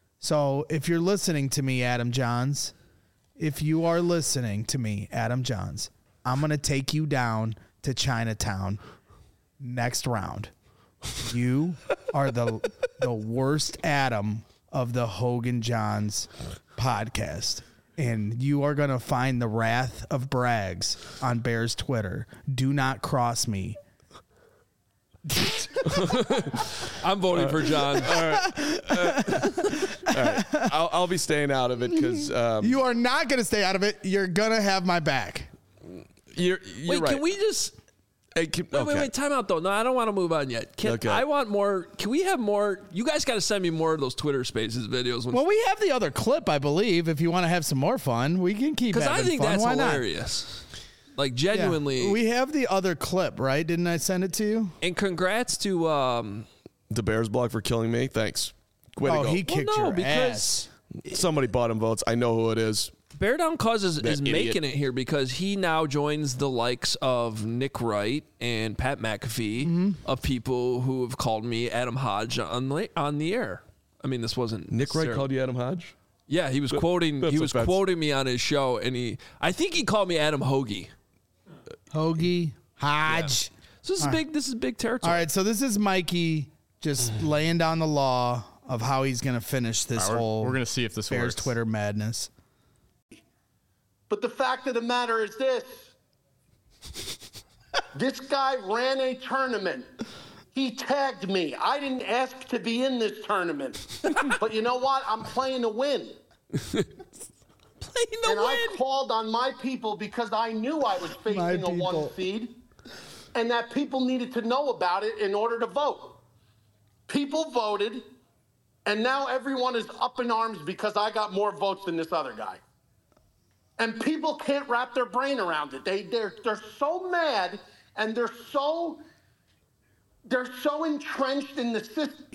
So if you're listening to me, Adam Johns, if you are listening to me, Adam Johns, I'm gonna take you down to Chinatown next round. You are the the worst Adam of the Hogan Johns podcast. And you are going to find the wrath of Braggs on Bears Twitter. Do not cross me. I'm voting for John. I'll, I'll be staying out of it because um, You are not going to stay out of it. You're going to have my back. you're, you're Wait, right. can we just Hey, can- wait, wait, okay. wait, time out though. No, I don't want to move on yet. Can, Okay. I want more. Can we have more? You guys got to send me more of those Twitter Spaces videos. Well, we have the other clip, I believe. If you want to have some more fun, we can keep Because having I think fun. that's Why not? hilarious. Like Yeah. genuinely. We have the other clip, right? Didn't I send it to you? and congrats to. um The Bears blog for killing me. Thanks. Way to Oh, go. he kicked no, your because- ass. Somebody bought him votes. I know who it is. Bear Down Cuz is, That is idiot. making it here because he now joins the likes of Nick Wright and Pat McAfee Mm-hmm. of people who have called me Adam Hodge on the, on the air. I mean, this wasn't Nick Wright necessarily- called you Adam Hodge? Yeah, he was quoting. that's He was offensive. quoting me on his show, and he. I think he called me Adam Hoagie. Hoagie, Hodge. So this is big. This is big territory. All right, so this is Mikey just laying down the law of how he's going to finish this We're, whole we're gonna see if this Bears works. Twitter madness. But the fact of the matter is this. This guy ran a tournament. He tagged me. I didn't ask to be in this tournament. But you know what? I'm playing to win. Playing the And win. I called on my people because I knew I was My facing a one people. seed and that people needed to know about it in order to vote. People voted, and now everyone is up in arms because I got more votes than this other guy. And people can't wrap their brain around it. They, they're, they're so mad and they're so They're so entrenched in the system.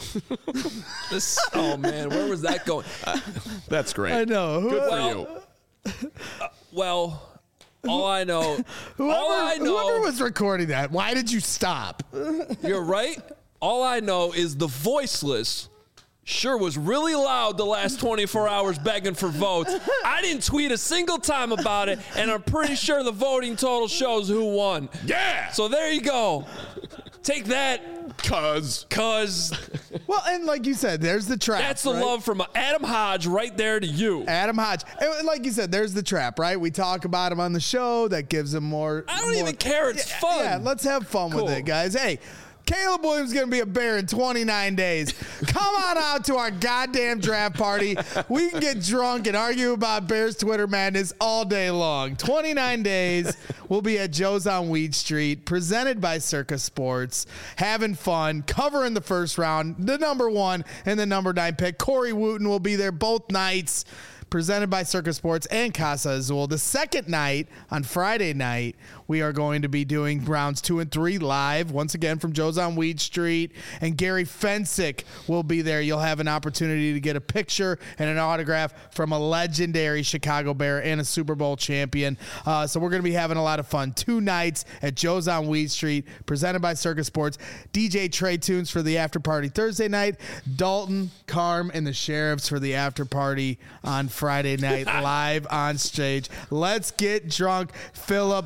This, oh man, where was that going? Uh, That's great. I know. Good well, for you. Uh, well, all I know, Whoever, all I know, whoever was recording that, why did you stop? You're right. All I know is the voiceless sure was really loud the last twenty-four hours begging for votes. I didn't tweet a single time about it, and I'm pretty sure the voting total shows who won. Yeah. So there you go. Take that, cuz. Cuz. Well, and like you said, there's the trap. That's the right? love from Adam Hodge right there to you. Adam Hodge. And like you said, there's the trap, right? We talk about him on the show. That gives him more. I don't more, even care. It's yeah, fun. Yeah, let's have fun Cool. with it, guys. Hey, Caleb Williams is going to be a Bear in twenty-nine days. Come on out to our goddamn draft party. We can get drunk and argue about Bears Twitter madness all day long. twenty-nine days. We'll be at Joe's on Weed Street, presented by Circa Sports, having fun, covering the first round, the number one and the number nine pick. Corey Wooten will be there both nights, presented by Circa Sports and Casa Azul. The second night, on Friday night, we are going to be doing rounds two and three live, once again from Joe's on Weed Street, and Gary Fensick will be there. You'll have an opportunity to get a picture and an autograph from a legendary Chicago Bear and a Super Bowl champion. Uh, so we're going to be having a lot of fun. Two nights at Joe's on Weed Street, presented by Circa Sports. D J Trey Tunes for the after party Thursday night. Dalton, Carm, and the Sheriffs for the after party on Friday night, live on stage. Let's get drunk. Philip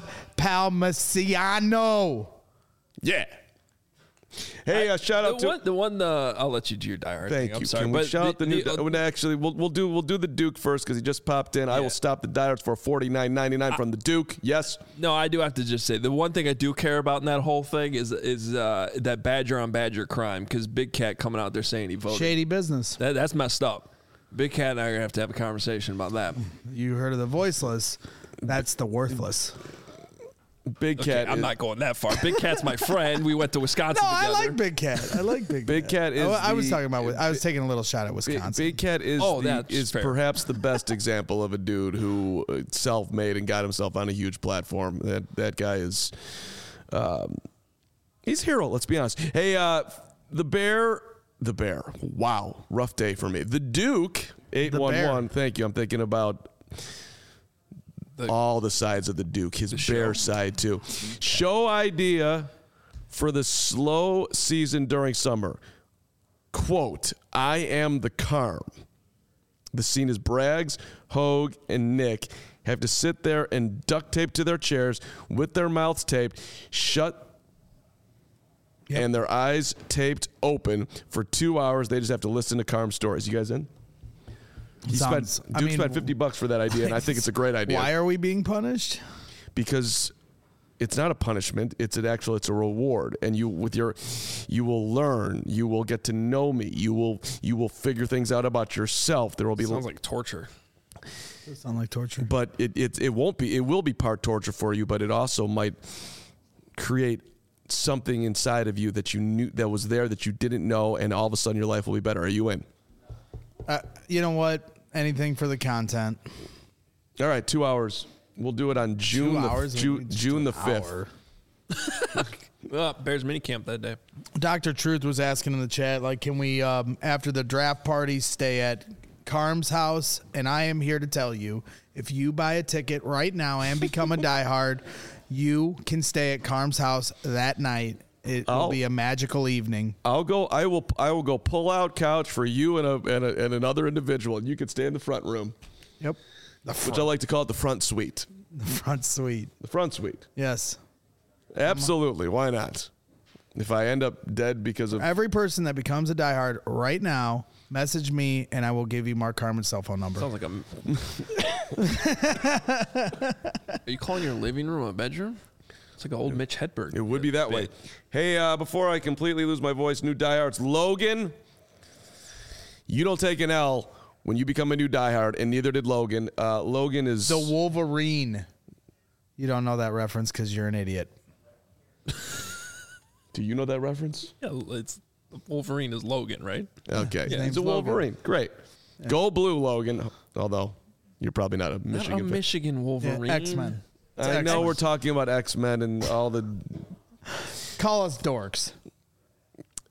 Palmasiano. Yeah. Hey, uh, shout out the to one. The one. The I'll let you do your diehard. Thank thing. I'm you. sorry, Can we but shout out the new? the, Uh, actually, we'll we'll do we'll do the Duke first because he just popped in. I Yeah. will stop the diehards for forty-nine ninety-nine from the Duke. Yes. No, I do have to just say the one thing I do care about in that whole thing is is uh, that Badger on Badger crime, because Big Cat coming out there saying he voted. Shady business. That, that's messed up. Big Cat and I are gonna have to have a conversation about that. You heard of the voiceless. That's the worthless. Big Okay, Cat. I'm is, not going that far. Big Cat's my friend. We went to Wisconsin No, I together. like Big Cat. I like Big, Big Cat is. I, I was the- talking about. I was taking a little shot at Big, Wisconsin. Big Cat is Oh, the, that's is fair. perhaps the best example of a dude who uh, self-made and got himself on a huge platform. That that guy is, um, he's a hero. Let's be honest. Hey, uh, the Bear, the Bear. Wow, rough day for me. The Duke eight one one. Thank you. I'm thinking about. The- all the sides of the Duke, his Bear show. side too. Show idea for the slow season during summer. Quote, I am the Carm. The scene is Braggs, Hogue, and Nick have to sit there and duct tape to their chairs with their mouths taped, shut, Yep. and their eyes taped open for two hours. They just have to listen to Carm stories. You guys in? He Sounds- spent, I Duke mean, spent fifty bucks for that idea, and I think it's a great idea. Why are we being punished? Because it's not a punishment, it's an actual it's a reward, and you with your you will learn, you will get to know me, you will you will figure things out about yourself. There will be Sounds like torture. Does sound like torture. but it, it it won't be it will be part torture for you, but it also might create something inside of you that you knew that was there that you didn't know, and all of a sudden your life will be better. Are you in? Uh, you know what? Anything for the content. All right, two hours. We'll do it on June Two the, hours. Ju- Just June an the fifth. hour. Uh, Bears minicamp that day. Doctor Truth was asking in the chat, like, can we, um, after the draft party, stay at Carm's house? And I am here to tell you, if you buy a ticket right now and become a diehard, you can stay at Carm's house that night. It will Oh. be a magical evening. I'll go. I will. I will go pull out couch for you and a and, a, and another individual. And you can stay in the front room, Yep. The which front, I like to call it the front suite. the front suite. The front suite. Yes. Absolutely. Why not? If I end up dead because of Every person that becomes a diehard right now, message me and I will give you Mark Carmen's cell phone number. Sounds like a. Are you calling your living room a bedroom? It's like an old Mitch Hedberg. it would be that way. Hey, uh, before I completely lose my voice, new diehards, Logan. You don't take an L when you become a new diehard, and neither did Logan. Uh, Logan is The Wolverine. You don't know that reference because you're an idiot. Do you know that reference? Yeah, it's Wolverine is Logan, right? Okay, Yeah. he's a Name's Logan. Wolverine. Great. Go blue, Logan. Although you're probably not a Not Michigan a fan. Michigan Wolverine. X-Men. It's I know X-Men. we're talking about X-Men and all the. Call us dorks.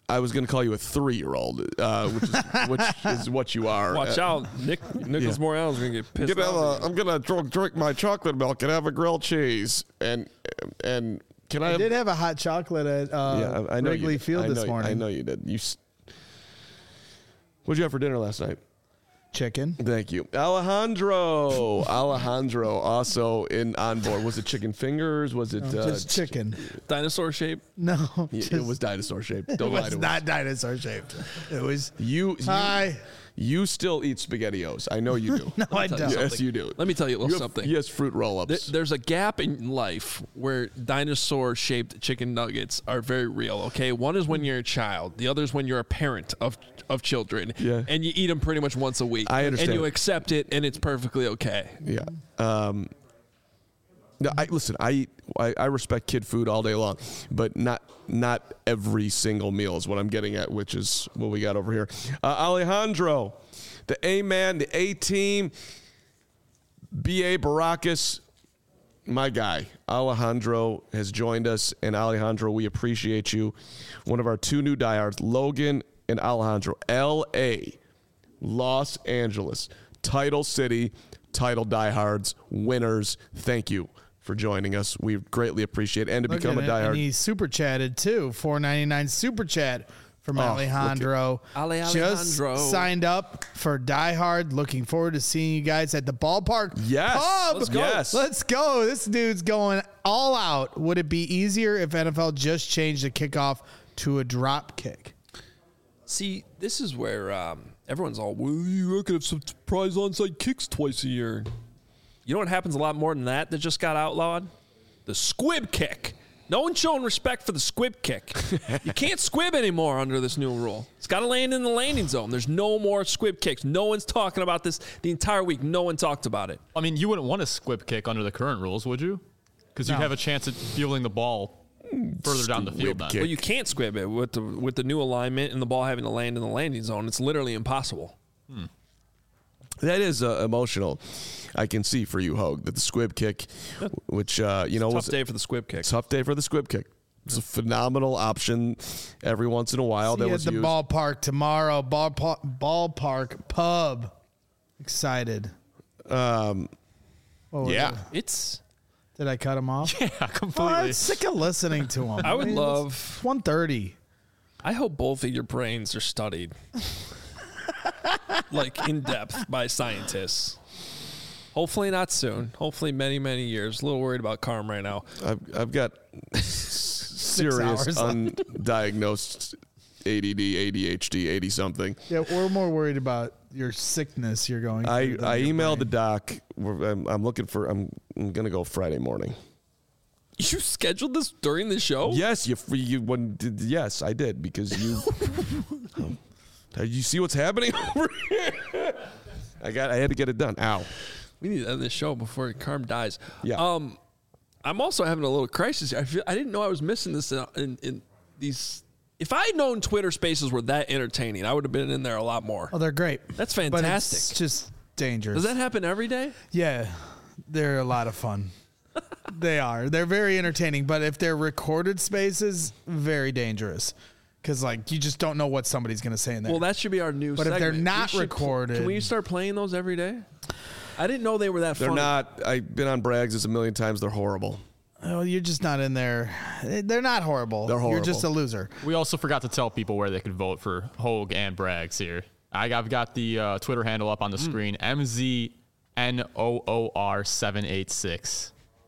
I was going to call you a three-year-old, uh, which is which is what you are. Watch uh, out, Nick Nicholas yeah. Morales is gonna get pissed gonna off. have a, I'm gonna drink, drink my chocolate milk and have a grilled cheese, and and can I? I have, did have a hot chocolate at uh, yeah, I, I know Wrigley you, Field I this know, morning. I know you did. You. What'd you have for dinner last night? Chicken. Thank you, Alejandro. Alejandro also in on board. Was it chicken fingers? Was it No, uh, just chicken? Dinosaur shape? No, Yeah, just, it was dinosaur shaped. it Don't lie was to not us. dinosaur shaped. It was. You, you, Hi. you still eat SpaghettiOs. I know you do. No, I tell you don't. something. Yes, you do. Let me tell you a little You have- something. Yes, fruit roll-ups. There- There's a gap in life where dinosaur-shaped chicken nuggets are very real. Okay, one is when you're a child. The other is when you're a parent of of children. Yeah. And you eat them pretty much once a week. I understand. And you accept it, and it's perfectly okay. Yeah. Um, no, I listen. I eat. I, I respect kid food all day long, but not not every single meal is what I'm getting at, which is what we got over here. Uh, Alejandro, the A man, the A team, B A Baracus, my guy Alejandro has joined us, and Alejandro, we appreciate you. One of our two new diehards, Logan and Alejandro, L A, Los Angeles, title city, title diehards, winners. Thank you for joining us. We greatly appreciate it. And to Look become a at it. diehard. And he super chatted too. four ninety-nine super chat from Oh, Alejandro. Ale Just Alejandro. signed up for Die Hard. Looking forward to seeing you guys at the ballpark. Yes. Pub. Let's go. Yes. Let's go. This dude's going all out. Would it be easier if N F L just changed the kickoff to a drop kick? See, this is where um, everyone's all, well, you could have some surprise onside kicks twice a year. You know what happens a lot more than that that just got outlawed? The squib kick. No one's showing respect for the squib kick. You can't squib anymore under this new rule. It's got to land in the landing zone. There's no more squib kicks. No one's talking about this the entire week. No one talked about it. I mean, you wouldn't want a squib kick under the current rules, would you? Because you'd No. have a chance at fielding the ball further down the field then. kick. Well, you can't squib it with the with the new alignment and the ball having to land in the landing zone. It's literally impossible. Hmm. That is uh, emotional. I can see for you, Hogue, that the squib kick, which, uh, you know, Tough was day for the squib kick. tough day for the squib kick. It's a phenomenal option every once in a while See that you was at the used. ballpark tomorrow. Ballpark, ballpark pub. Excited. Um, What was yeah. it? It's. Did I cut him off? Yeah, Oh, completely. I'm sick of listening to him. I would mean, love- it's one thirty. I hope both of your brains are studied, like in depth by scientists. Hopefully not soon. Hopefully many many years. A little worried about Carm right now. I've, I've got serious hours left. undiagnosed A D D, A D H D, eighty something. Yeah, we're more worried about your sickness you're going I, through than I your emailed the brain. doc. We're- I'm, I'm looking for, I'm, I'm going to go Friday morning. You scheduled this during the show? Yes, you, you when, did, yes, I did because you, um, you see what's happening over here? I got, I had to get it done. Ow. We need to end this show before Carm dies. Yeah. Um, I'm also having a little crisis here. I feel I didn't know I was missing this in, in, in these. If I had known Twitter Spaces were that entertaining, I would have been in there a lot more. Oh, they're great. That's But fantastic. it's just dangerous. Does that happen every day? Yeah, they're a lot of fun. They are. They're very entertaining, but if they're recorded spaces, very dangerous. Because, like, you just don't know what somebody's going to say in there. Well, that should be our new But if segment. they're We not should- recorded- Can we start playing those every day? I didn't know they were that They're funny. not, I've been on Bragg's a million times. They're horrible. oh, you're just not in there. They're not horrible. They're You're just a horrible. loser. We also forgot to tell people where they could vote for Hogue and Braggs here. I, I've got the uh, Twitter handle up on the screen, M Z N O O R seven eight six.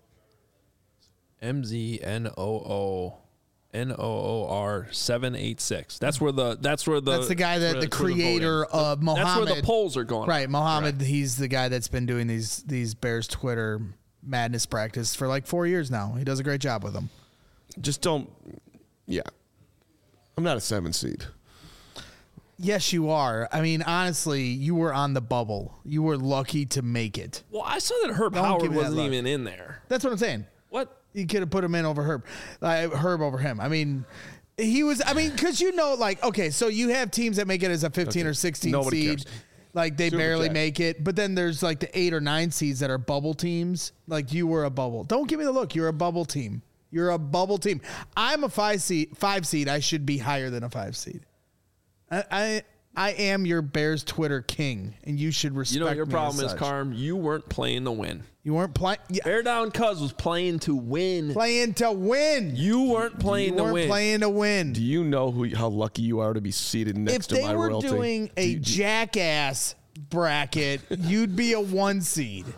M Z N O O N O O R seven eight six. That's where the that's where the That's the guy that where- the that's where the creator voting- of Mohammed. that's where the polls are going. Right, Mohammed. He's the guy that's been doing these these Bears Twitter madness practice for like four years now. He does a great job with them. Just don't, yeah. I'm not a seven seed. Yes, you are. I mean, honestly, you were on the bubble. You were lucky to make it. Well, I saw that Herb Don't Howard give me that wasn't look. even in there. That's what I'm saying. What? You could have put him in over Herb, uh, Herb over him. I mean, he was. I mean, because you know, like, okay, so you have teams that make it as a fifteen Okay. or sixteen Nobody seed, cares. like they Super barely Jack. make it. But then there's like the eight or nine seeds that are bubble teams. Like you were a bubble. Don't give me the look. You're a bubble team. You're a bubble team. I'm a five seed. Five seed. I should be higher than a five seed. I I, I am your Bears Twitter king, and you should respect. You know what your me problem as is, such. Carm? You weren't playing to win. You weren't playing. Yeah. Bear Down Cuz was playing to win. Playing to win. You weren't playing you to weren't win. playing to win. Do you know who how lucky you are to be seated next If to my they were royalty? doing a Do you- do you- jackass bracket, you'd be a one seed.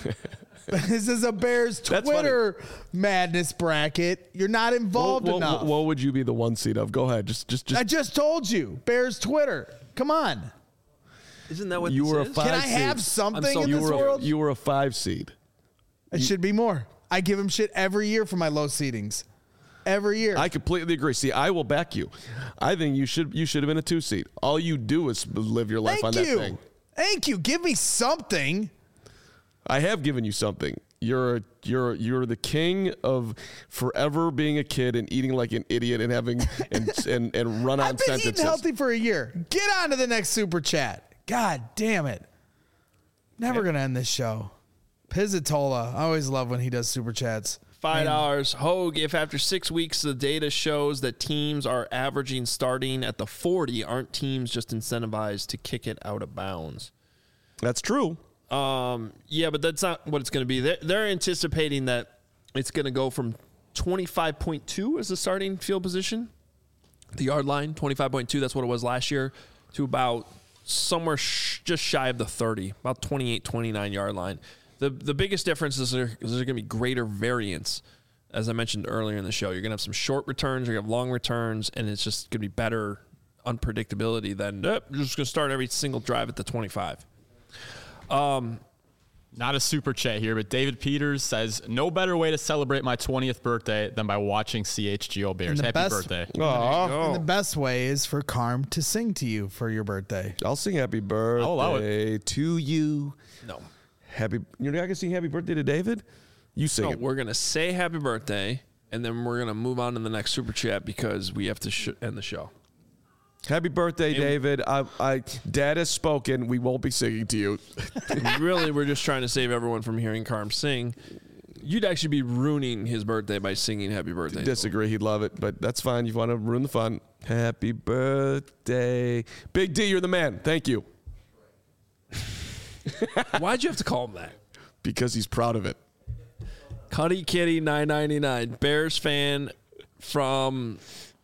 This is a Bears That's Twitter madness bracket. You're not involved what, enough. what, what would you be the one seed of? Go ahead. Just, just, just. I just told you, Bears Twitter. Come on. Isn't that what you this were is? a five Can I seed. have something I'm so- in you this were world? A, you were a five seed. It should be more. I give him shit every year for my low seedings. Every year. I completely agree. See, I will back you. I think you should you should have been a two seed. All you do is live your life Thank on you. that thing. Thank you. Give me something. I have given you something. You're you're you're the king of forever being a kid and eating like an idiot and having and and, and run on I've been sentences. eating healthy for a year. Get on to the next super chat. God damn it. Never going to end this show. Pizzatola. I always love when he does super chats. Five dollars. Hogue, if after six weeks the data shows that teams are averaging starting at the forty, aren't teams just incentivized to kick it out of bounds? That's true. Um, yeah, but that's not what it's going to be. They're, they're anticipating that it's going to go from twenty-five point two as the starting field position, the yard line, twenty-five point two, that's what it was last year, to about somewhere sh- just shy of the thirty, about twenty-eight, twenty-nine yard line. The the biggest difference is there, is there's going to be greater variance. As I mentioned earlier in the show, you're going to have some short returns, you're going to have long returns, and it's just going to be better unpredictability than eh, you're just going to start every single drive at the twenty-five. Um, Not a super chat here, but David Peters says, no better way to celebrate my twentieth birthday than by watching C H G O Bears. And the Happy best- birthday. Aw. And the best way is for Carm to sing to you for your birthday. I'll sing happy birthday I'll allow it. to you. No. Happy. You're not gonna sing happy birthday to David? You sing No, it. we're going to say happy birthday, and then we're going to move on to the next super chat because we have to sh- end the show. Happy birthday, David. I, I, Dad has spoken. We won't be singing to you. Really, we're just trying to save everyone from hearing Carm sing. You'd actually be ruining his birthday by singing happy birthday. Disagree. He'd love it, but that's fine. You want to ruin the fun. Happy birthday. Big D, you're the man. Thank you. Why'd you have to call him that? Because he's proud of it. Cuddy Kitty nine ninety-nine, Bears fan from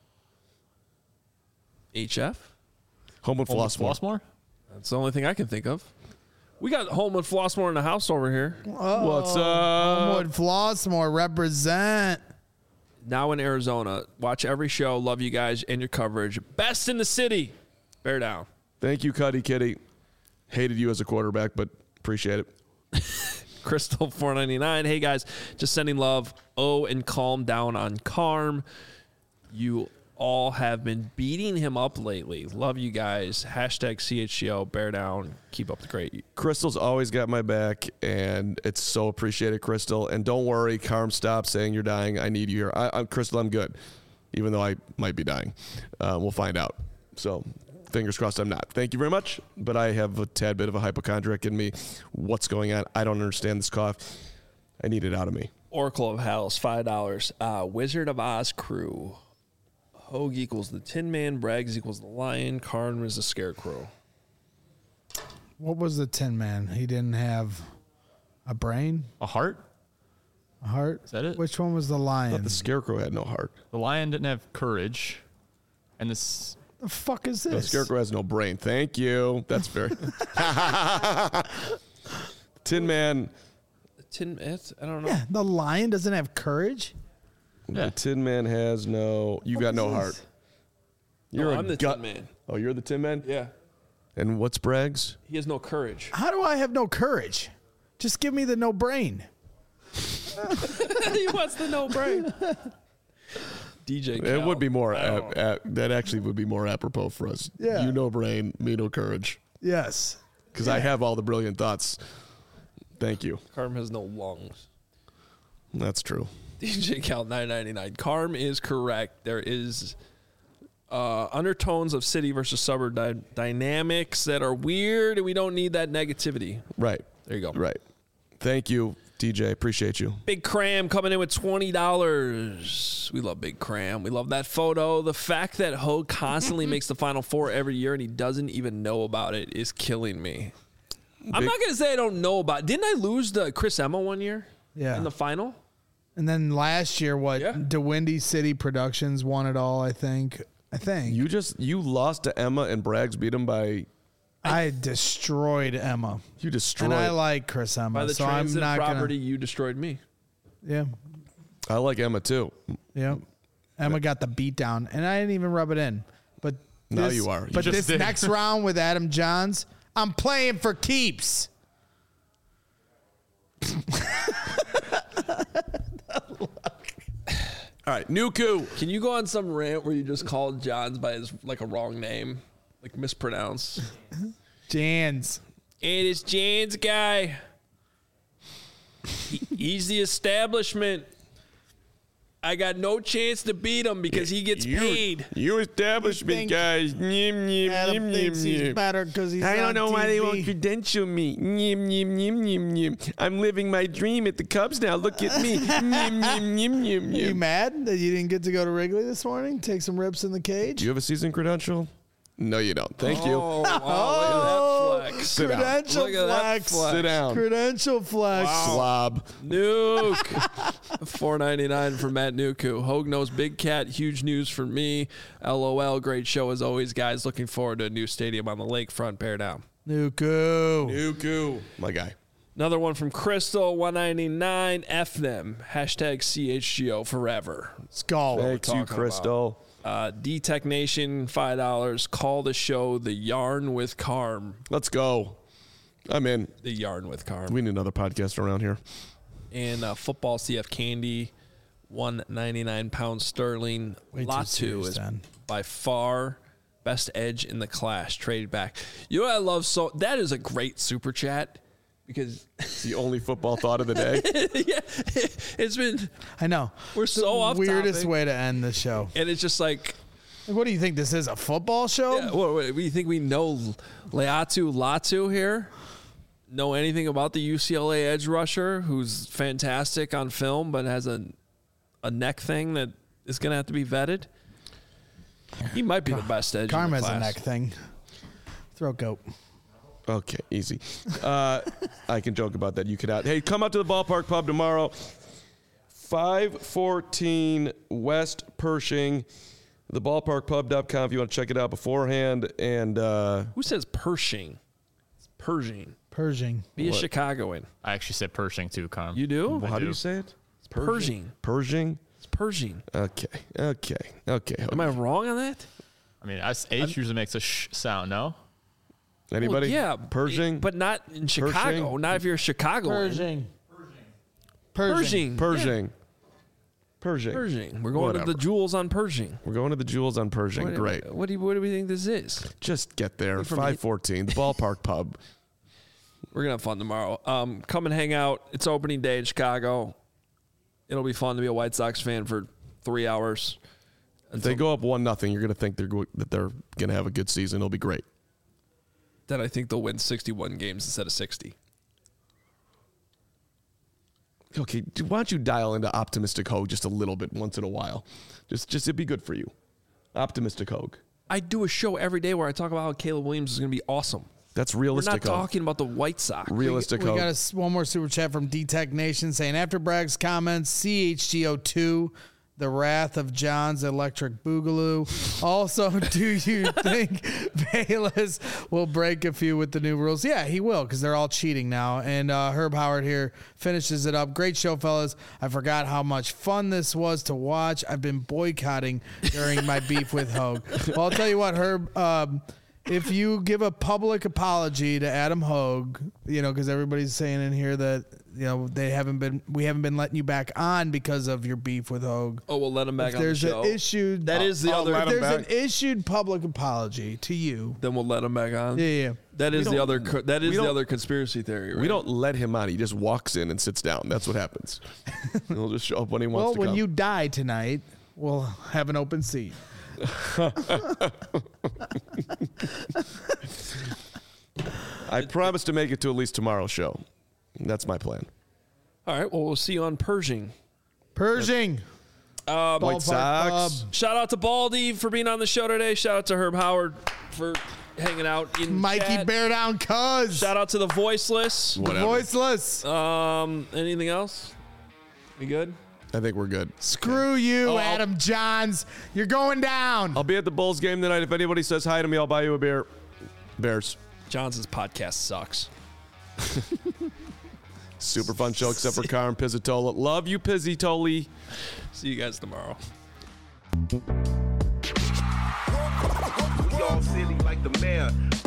H F? Homewood Homewood Flossmoor. Flossmoor? That's the only thing I can think of. We got Homewood Flossmoor in the house over here. What's up? Homewood Flossmoor represent. Now in Arizona. Watch every show. Love you guys and your coverage. Best in the city. Bear down. Thank you, Cuddy Kitty. Hated you as a quarterback, but appreciate it. Crystal four ninety-nine. Hey guys, just sending love. Oh, and calm down on Carm. You all have been beating him up lately. Love you guys. Hashtag C H G O. Bear down. Keep up the great. Crystal's always got my back, and it's so appreciated, Crystal. And don't worry, Carm, stop saying you're dying. I need you here. I, I'm Crystal. I'm good, even though I might be dying. Uh, we'll find out. So fingers crossed I'm not. Thank you very much, but I have a tad bit of a hypochondriac in me. What's going on? I don't understand this cough. I need it out of me. Oracle of Hells, five dollars. Uh, Wizard of Oz crew. Hogue equals the Tin Man. Braggs equals the Lion. Karn is the Scarecrow. What was the Tin Man? He didn't have a brain, A heart? a heart. Is that it? Which one was the I lion? thought the Scarecrow had no heart. The lion didn't have courage. And this. the fuck is this? The Scarecrow has no brain. Thank you. That's very. Tin Man. The Tin it's, I don't know. Yeah, the lion doesn't have courage. The Tin Man has no. You got is no this? heart. No, You're a I'm the gut Tin Man. Oh, you're the Tin Man. Yeah. And what's Braggs? He has no courage. How do I have no courage? Just give me the no brain. He wants the no brain. D J It Cal. would be more. I Ap- don't know. ap- that actually would be more apropos for us. Yeah. You no brain, me no courage. Yes. Because I have all the brilliant thoughts. Thank you. Carm has no lungs. That's true. D J Cal nine ninety-nine. Carm is correct. There is uh, undertones of city versus suburb dy- dynamics that are weird, and we don't need that negativity. Right. There you go. Right. Thank you. D J, appreciate you. Big Cram coming in with twenty dollars. We love Big Cram. We love that photo. The fact that Hogue constantly makes the Final Four every year and he doesn't even know about it is killing me. Big. I'm not going to say I don't know about it. Didn't I lose to Chris Emma one year? Yeah. In the final? And then last year, what? Yeah. DeWindy City Productions won it all, I think. I think. You just, you lost to Emma and Braggs beat him by... I destroyed Emma. You destroyed. And I like Chris Emma. By the so I'm transit not property, gonna, you destroyed me. Yeah. I like Emma too. Yeah. Emma got the beat down, and I didn't even rub it in. But now this, you are. You but this did. next round with Adam Johns, I'm playing for keeps. All right, Nuku. Can you go on some rant where you just called Johns by his like a wrong name, like mispronounced? Jans. Hey, this Jans guy. He, he's the establishment. I got no chance to beat him because he gets you, paid. You establishment think guys. Nyim, nyim, Adam nyim, thinks nyim, he's nyim. better because he's I don't on know T V. why they won't credential me. Nyim, nyim, nyim, nyim, nyim. I'm living my dream at the Cubs now. Look at me. Nyim, nyim, nyim, nyim, Are you nyim. mad that you didn't get to go to Wrigley this morning? Take some rips in the cage? Do you have a season credential? No, you don't. Thank you. Oh, wow, look at that flex. Sit down. Credential Look at that flex. flex. Sit down. Credential flex. Slob. Nuke. four ninety-nine for Matt Nuku. Hogue knows Big Cat. Huge news for me. LOL. Great show as always, guys. Looking forward to a new stadium on the lakefront. Bear down. Nuku. Nuku. My guy. Another one from Crystal. one ninety-nine. F them. Hashtag C H G O forever. Let's go. Thanks you, talking Crystal. Uh, D-Tech Nation, five dollars. Call the show The Yarn with Carm. Let's go. I'm in. The Yarn with Carm. We need another podcast around here. And uh, Football C F Candy, one ninety-nine pounds sterling. Way too Latu serious, is Dan. by far best edge in the class. Traded back. You know what I love? So that is a great super chat because It's the only football thought of the day. yeah, it's been I know. we're It's so the off weirdest topic. way to end the show. And it's just like, Like, what do you think this is? A football show? yeah, what, what, we think we know Leatu Latu here? Know anything about the U C L A edge rusher who's fantastic on film but has a a neck thing that is going to have to be vetted? He might be the best edge Carm in the has a class. neck thing. Throat goat. Okay, easy. Uh, I can joke about that. You could out. Hey, come out to the Ballpark Pub tomorrow. five fourteen West Pershing. The ballpark pub dot com if you want to check it out beforehand. And uh, Who says Pershing? It's Pershing. Pershing. Be a What? Chicagoan. I actually said Pershing too, Carm. You do? how do do. you say it? It's Pershing. Pershing. It's Pershing. Okay. Okay. Okay. Am I wrong on that? I mean, S- H usually makes a sh sound, no? Anybody? Well, yeah. Pershing. But not in Chicago. Pershing? Not if you're a Chicagoan. Pershing. Pershing. Pershing. Pershing. Pershing. We're going Whatever. to the Jewels on Pershing. We're going to the Jewels on Pershing. What, Great. What do, you, what do we think this is? Just get there. from five fourteen. The Ballpark Pub. We're going to have fun tomorrow. Um, come and hang out. It's opening day in Chicago. It'll be fun to be a White Sox fan for three hours. If they go up one nothing, you're going to think they're go- that they're going to have a good season. It'll be great. Then I think they'll win sixty-one games instead of sixty. Okay, dude, why don't you dial into Optimistic Hogue just a little bit once in a while? Just, just it'd be good for you. Optimistic Hogue. I do a show every day where I talk about how Caleb Williams is going to be awesome. That's We're realistic. not Hogue. talking about the White Sox. Realistic We Hogue. got a s one more super chat from D-Tech Nation saying, after Bragg's comments, C H G O two, the wrath of John's electric boogaloo. Also, do you think Bayless will break a few with the new rules? Yeah, he will, because they're all cheating now. And uh, Herb Howard here finishes it up. Great show, fellas. I forgot how much fun this was to watch. I've been boycotting during my beef with Hogue. Well, I'll tell you what, Herb. Um, if you give a public apology to Adam Hogue, you know, because everybody's saying in here that, you know, they haven't been, we haven't been letting you back on because of your beef with Hogue. Oh, we'll let him back If on the there's show. an issued, That is the uh, other- If Let him there's an back. issued public apology to you, Then we'll let him back on. yeah, yeah. That is the don't- other. co- That is we the don't- other conspiracy theory. Right? We don't let him on. He just walks in and sits down. That's what happens. He'll just show up when he wants Well, to when come. you die tonight, we'll have an open seat. I promise to make it to at least tomorrow's show. That's my plan. All right. Well, we'll see you on Pershing. Pershing. Um, White Sox. Shout out to Baldy for being on the show today. Shout out to Herb Howard for hanging out in Mikey chat. Bear Down Cuz. Shout out to the Voiceless. The Voiceless. Um, anything else? We good? I think we're good. Screw you, Oh, Adam Johns. You're going down. I'll be at the Bulls game tonight. If anybody says hi to me, I'll buy you a beer. Bears. Johnson's podcast sucks. Super fun show, except for Karen Pizzatola. Love you, Pizzitoli. See you guys tomorrow. We all silly like the mayor.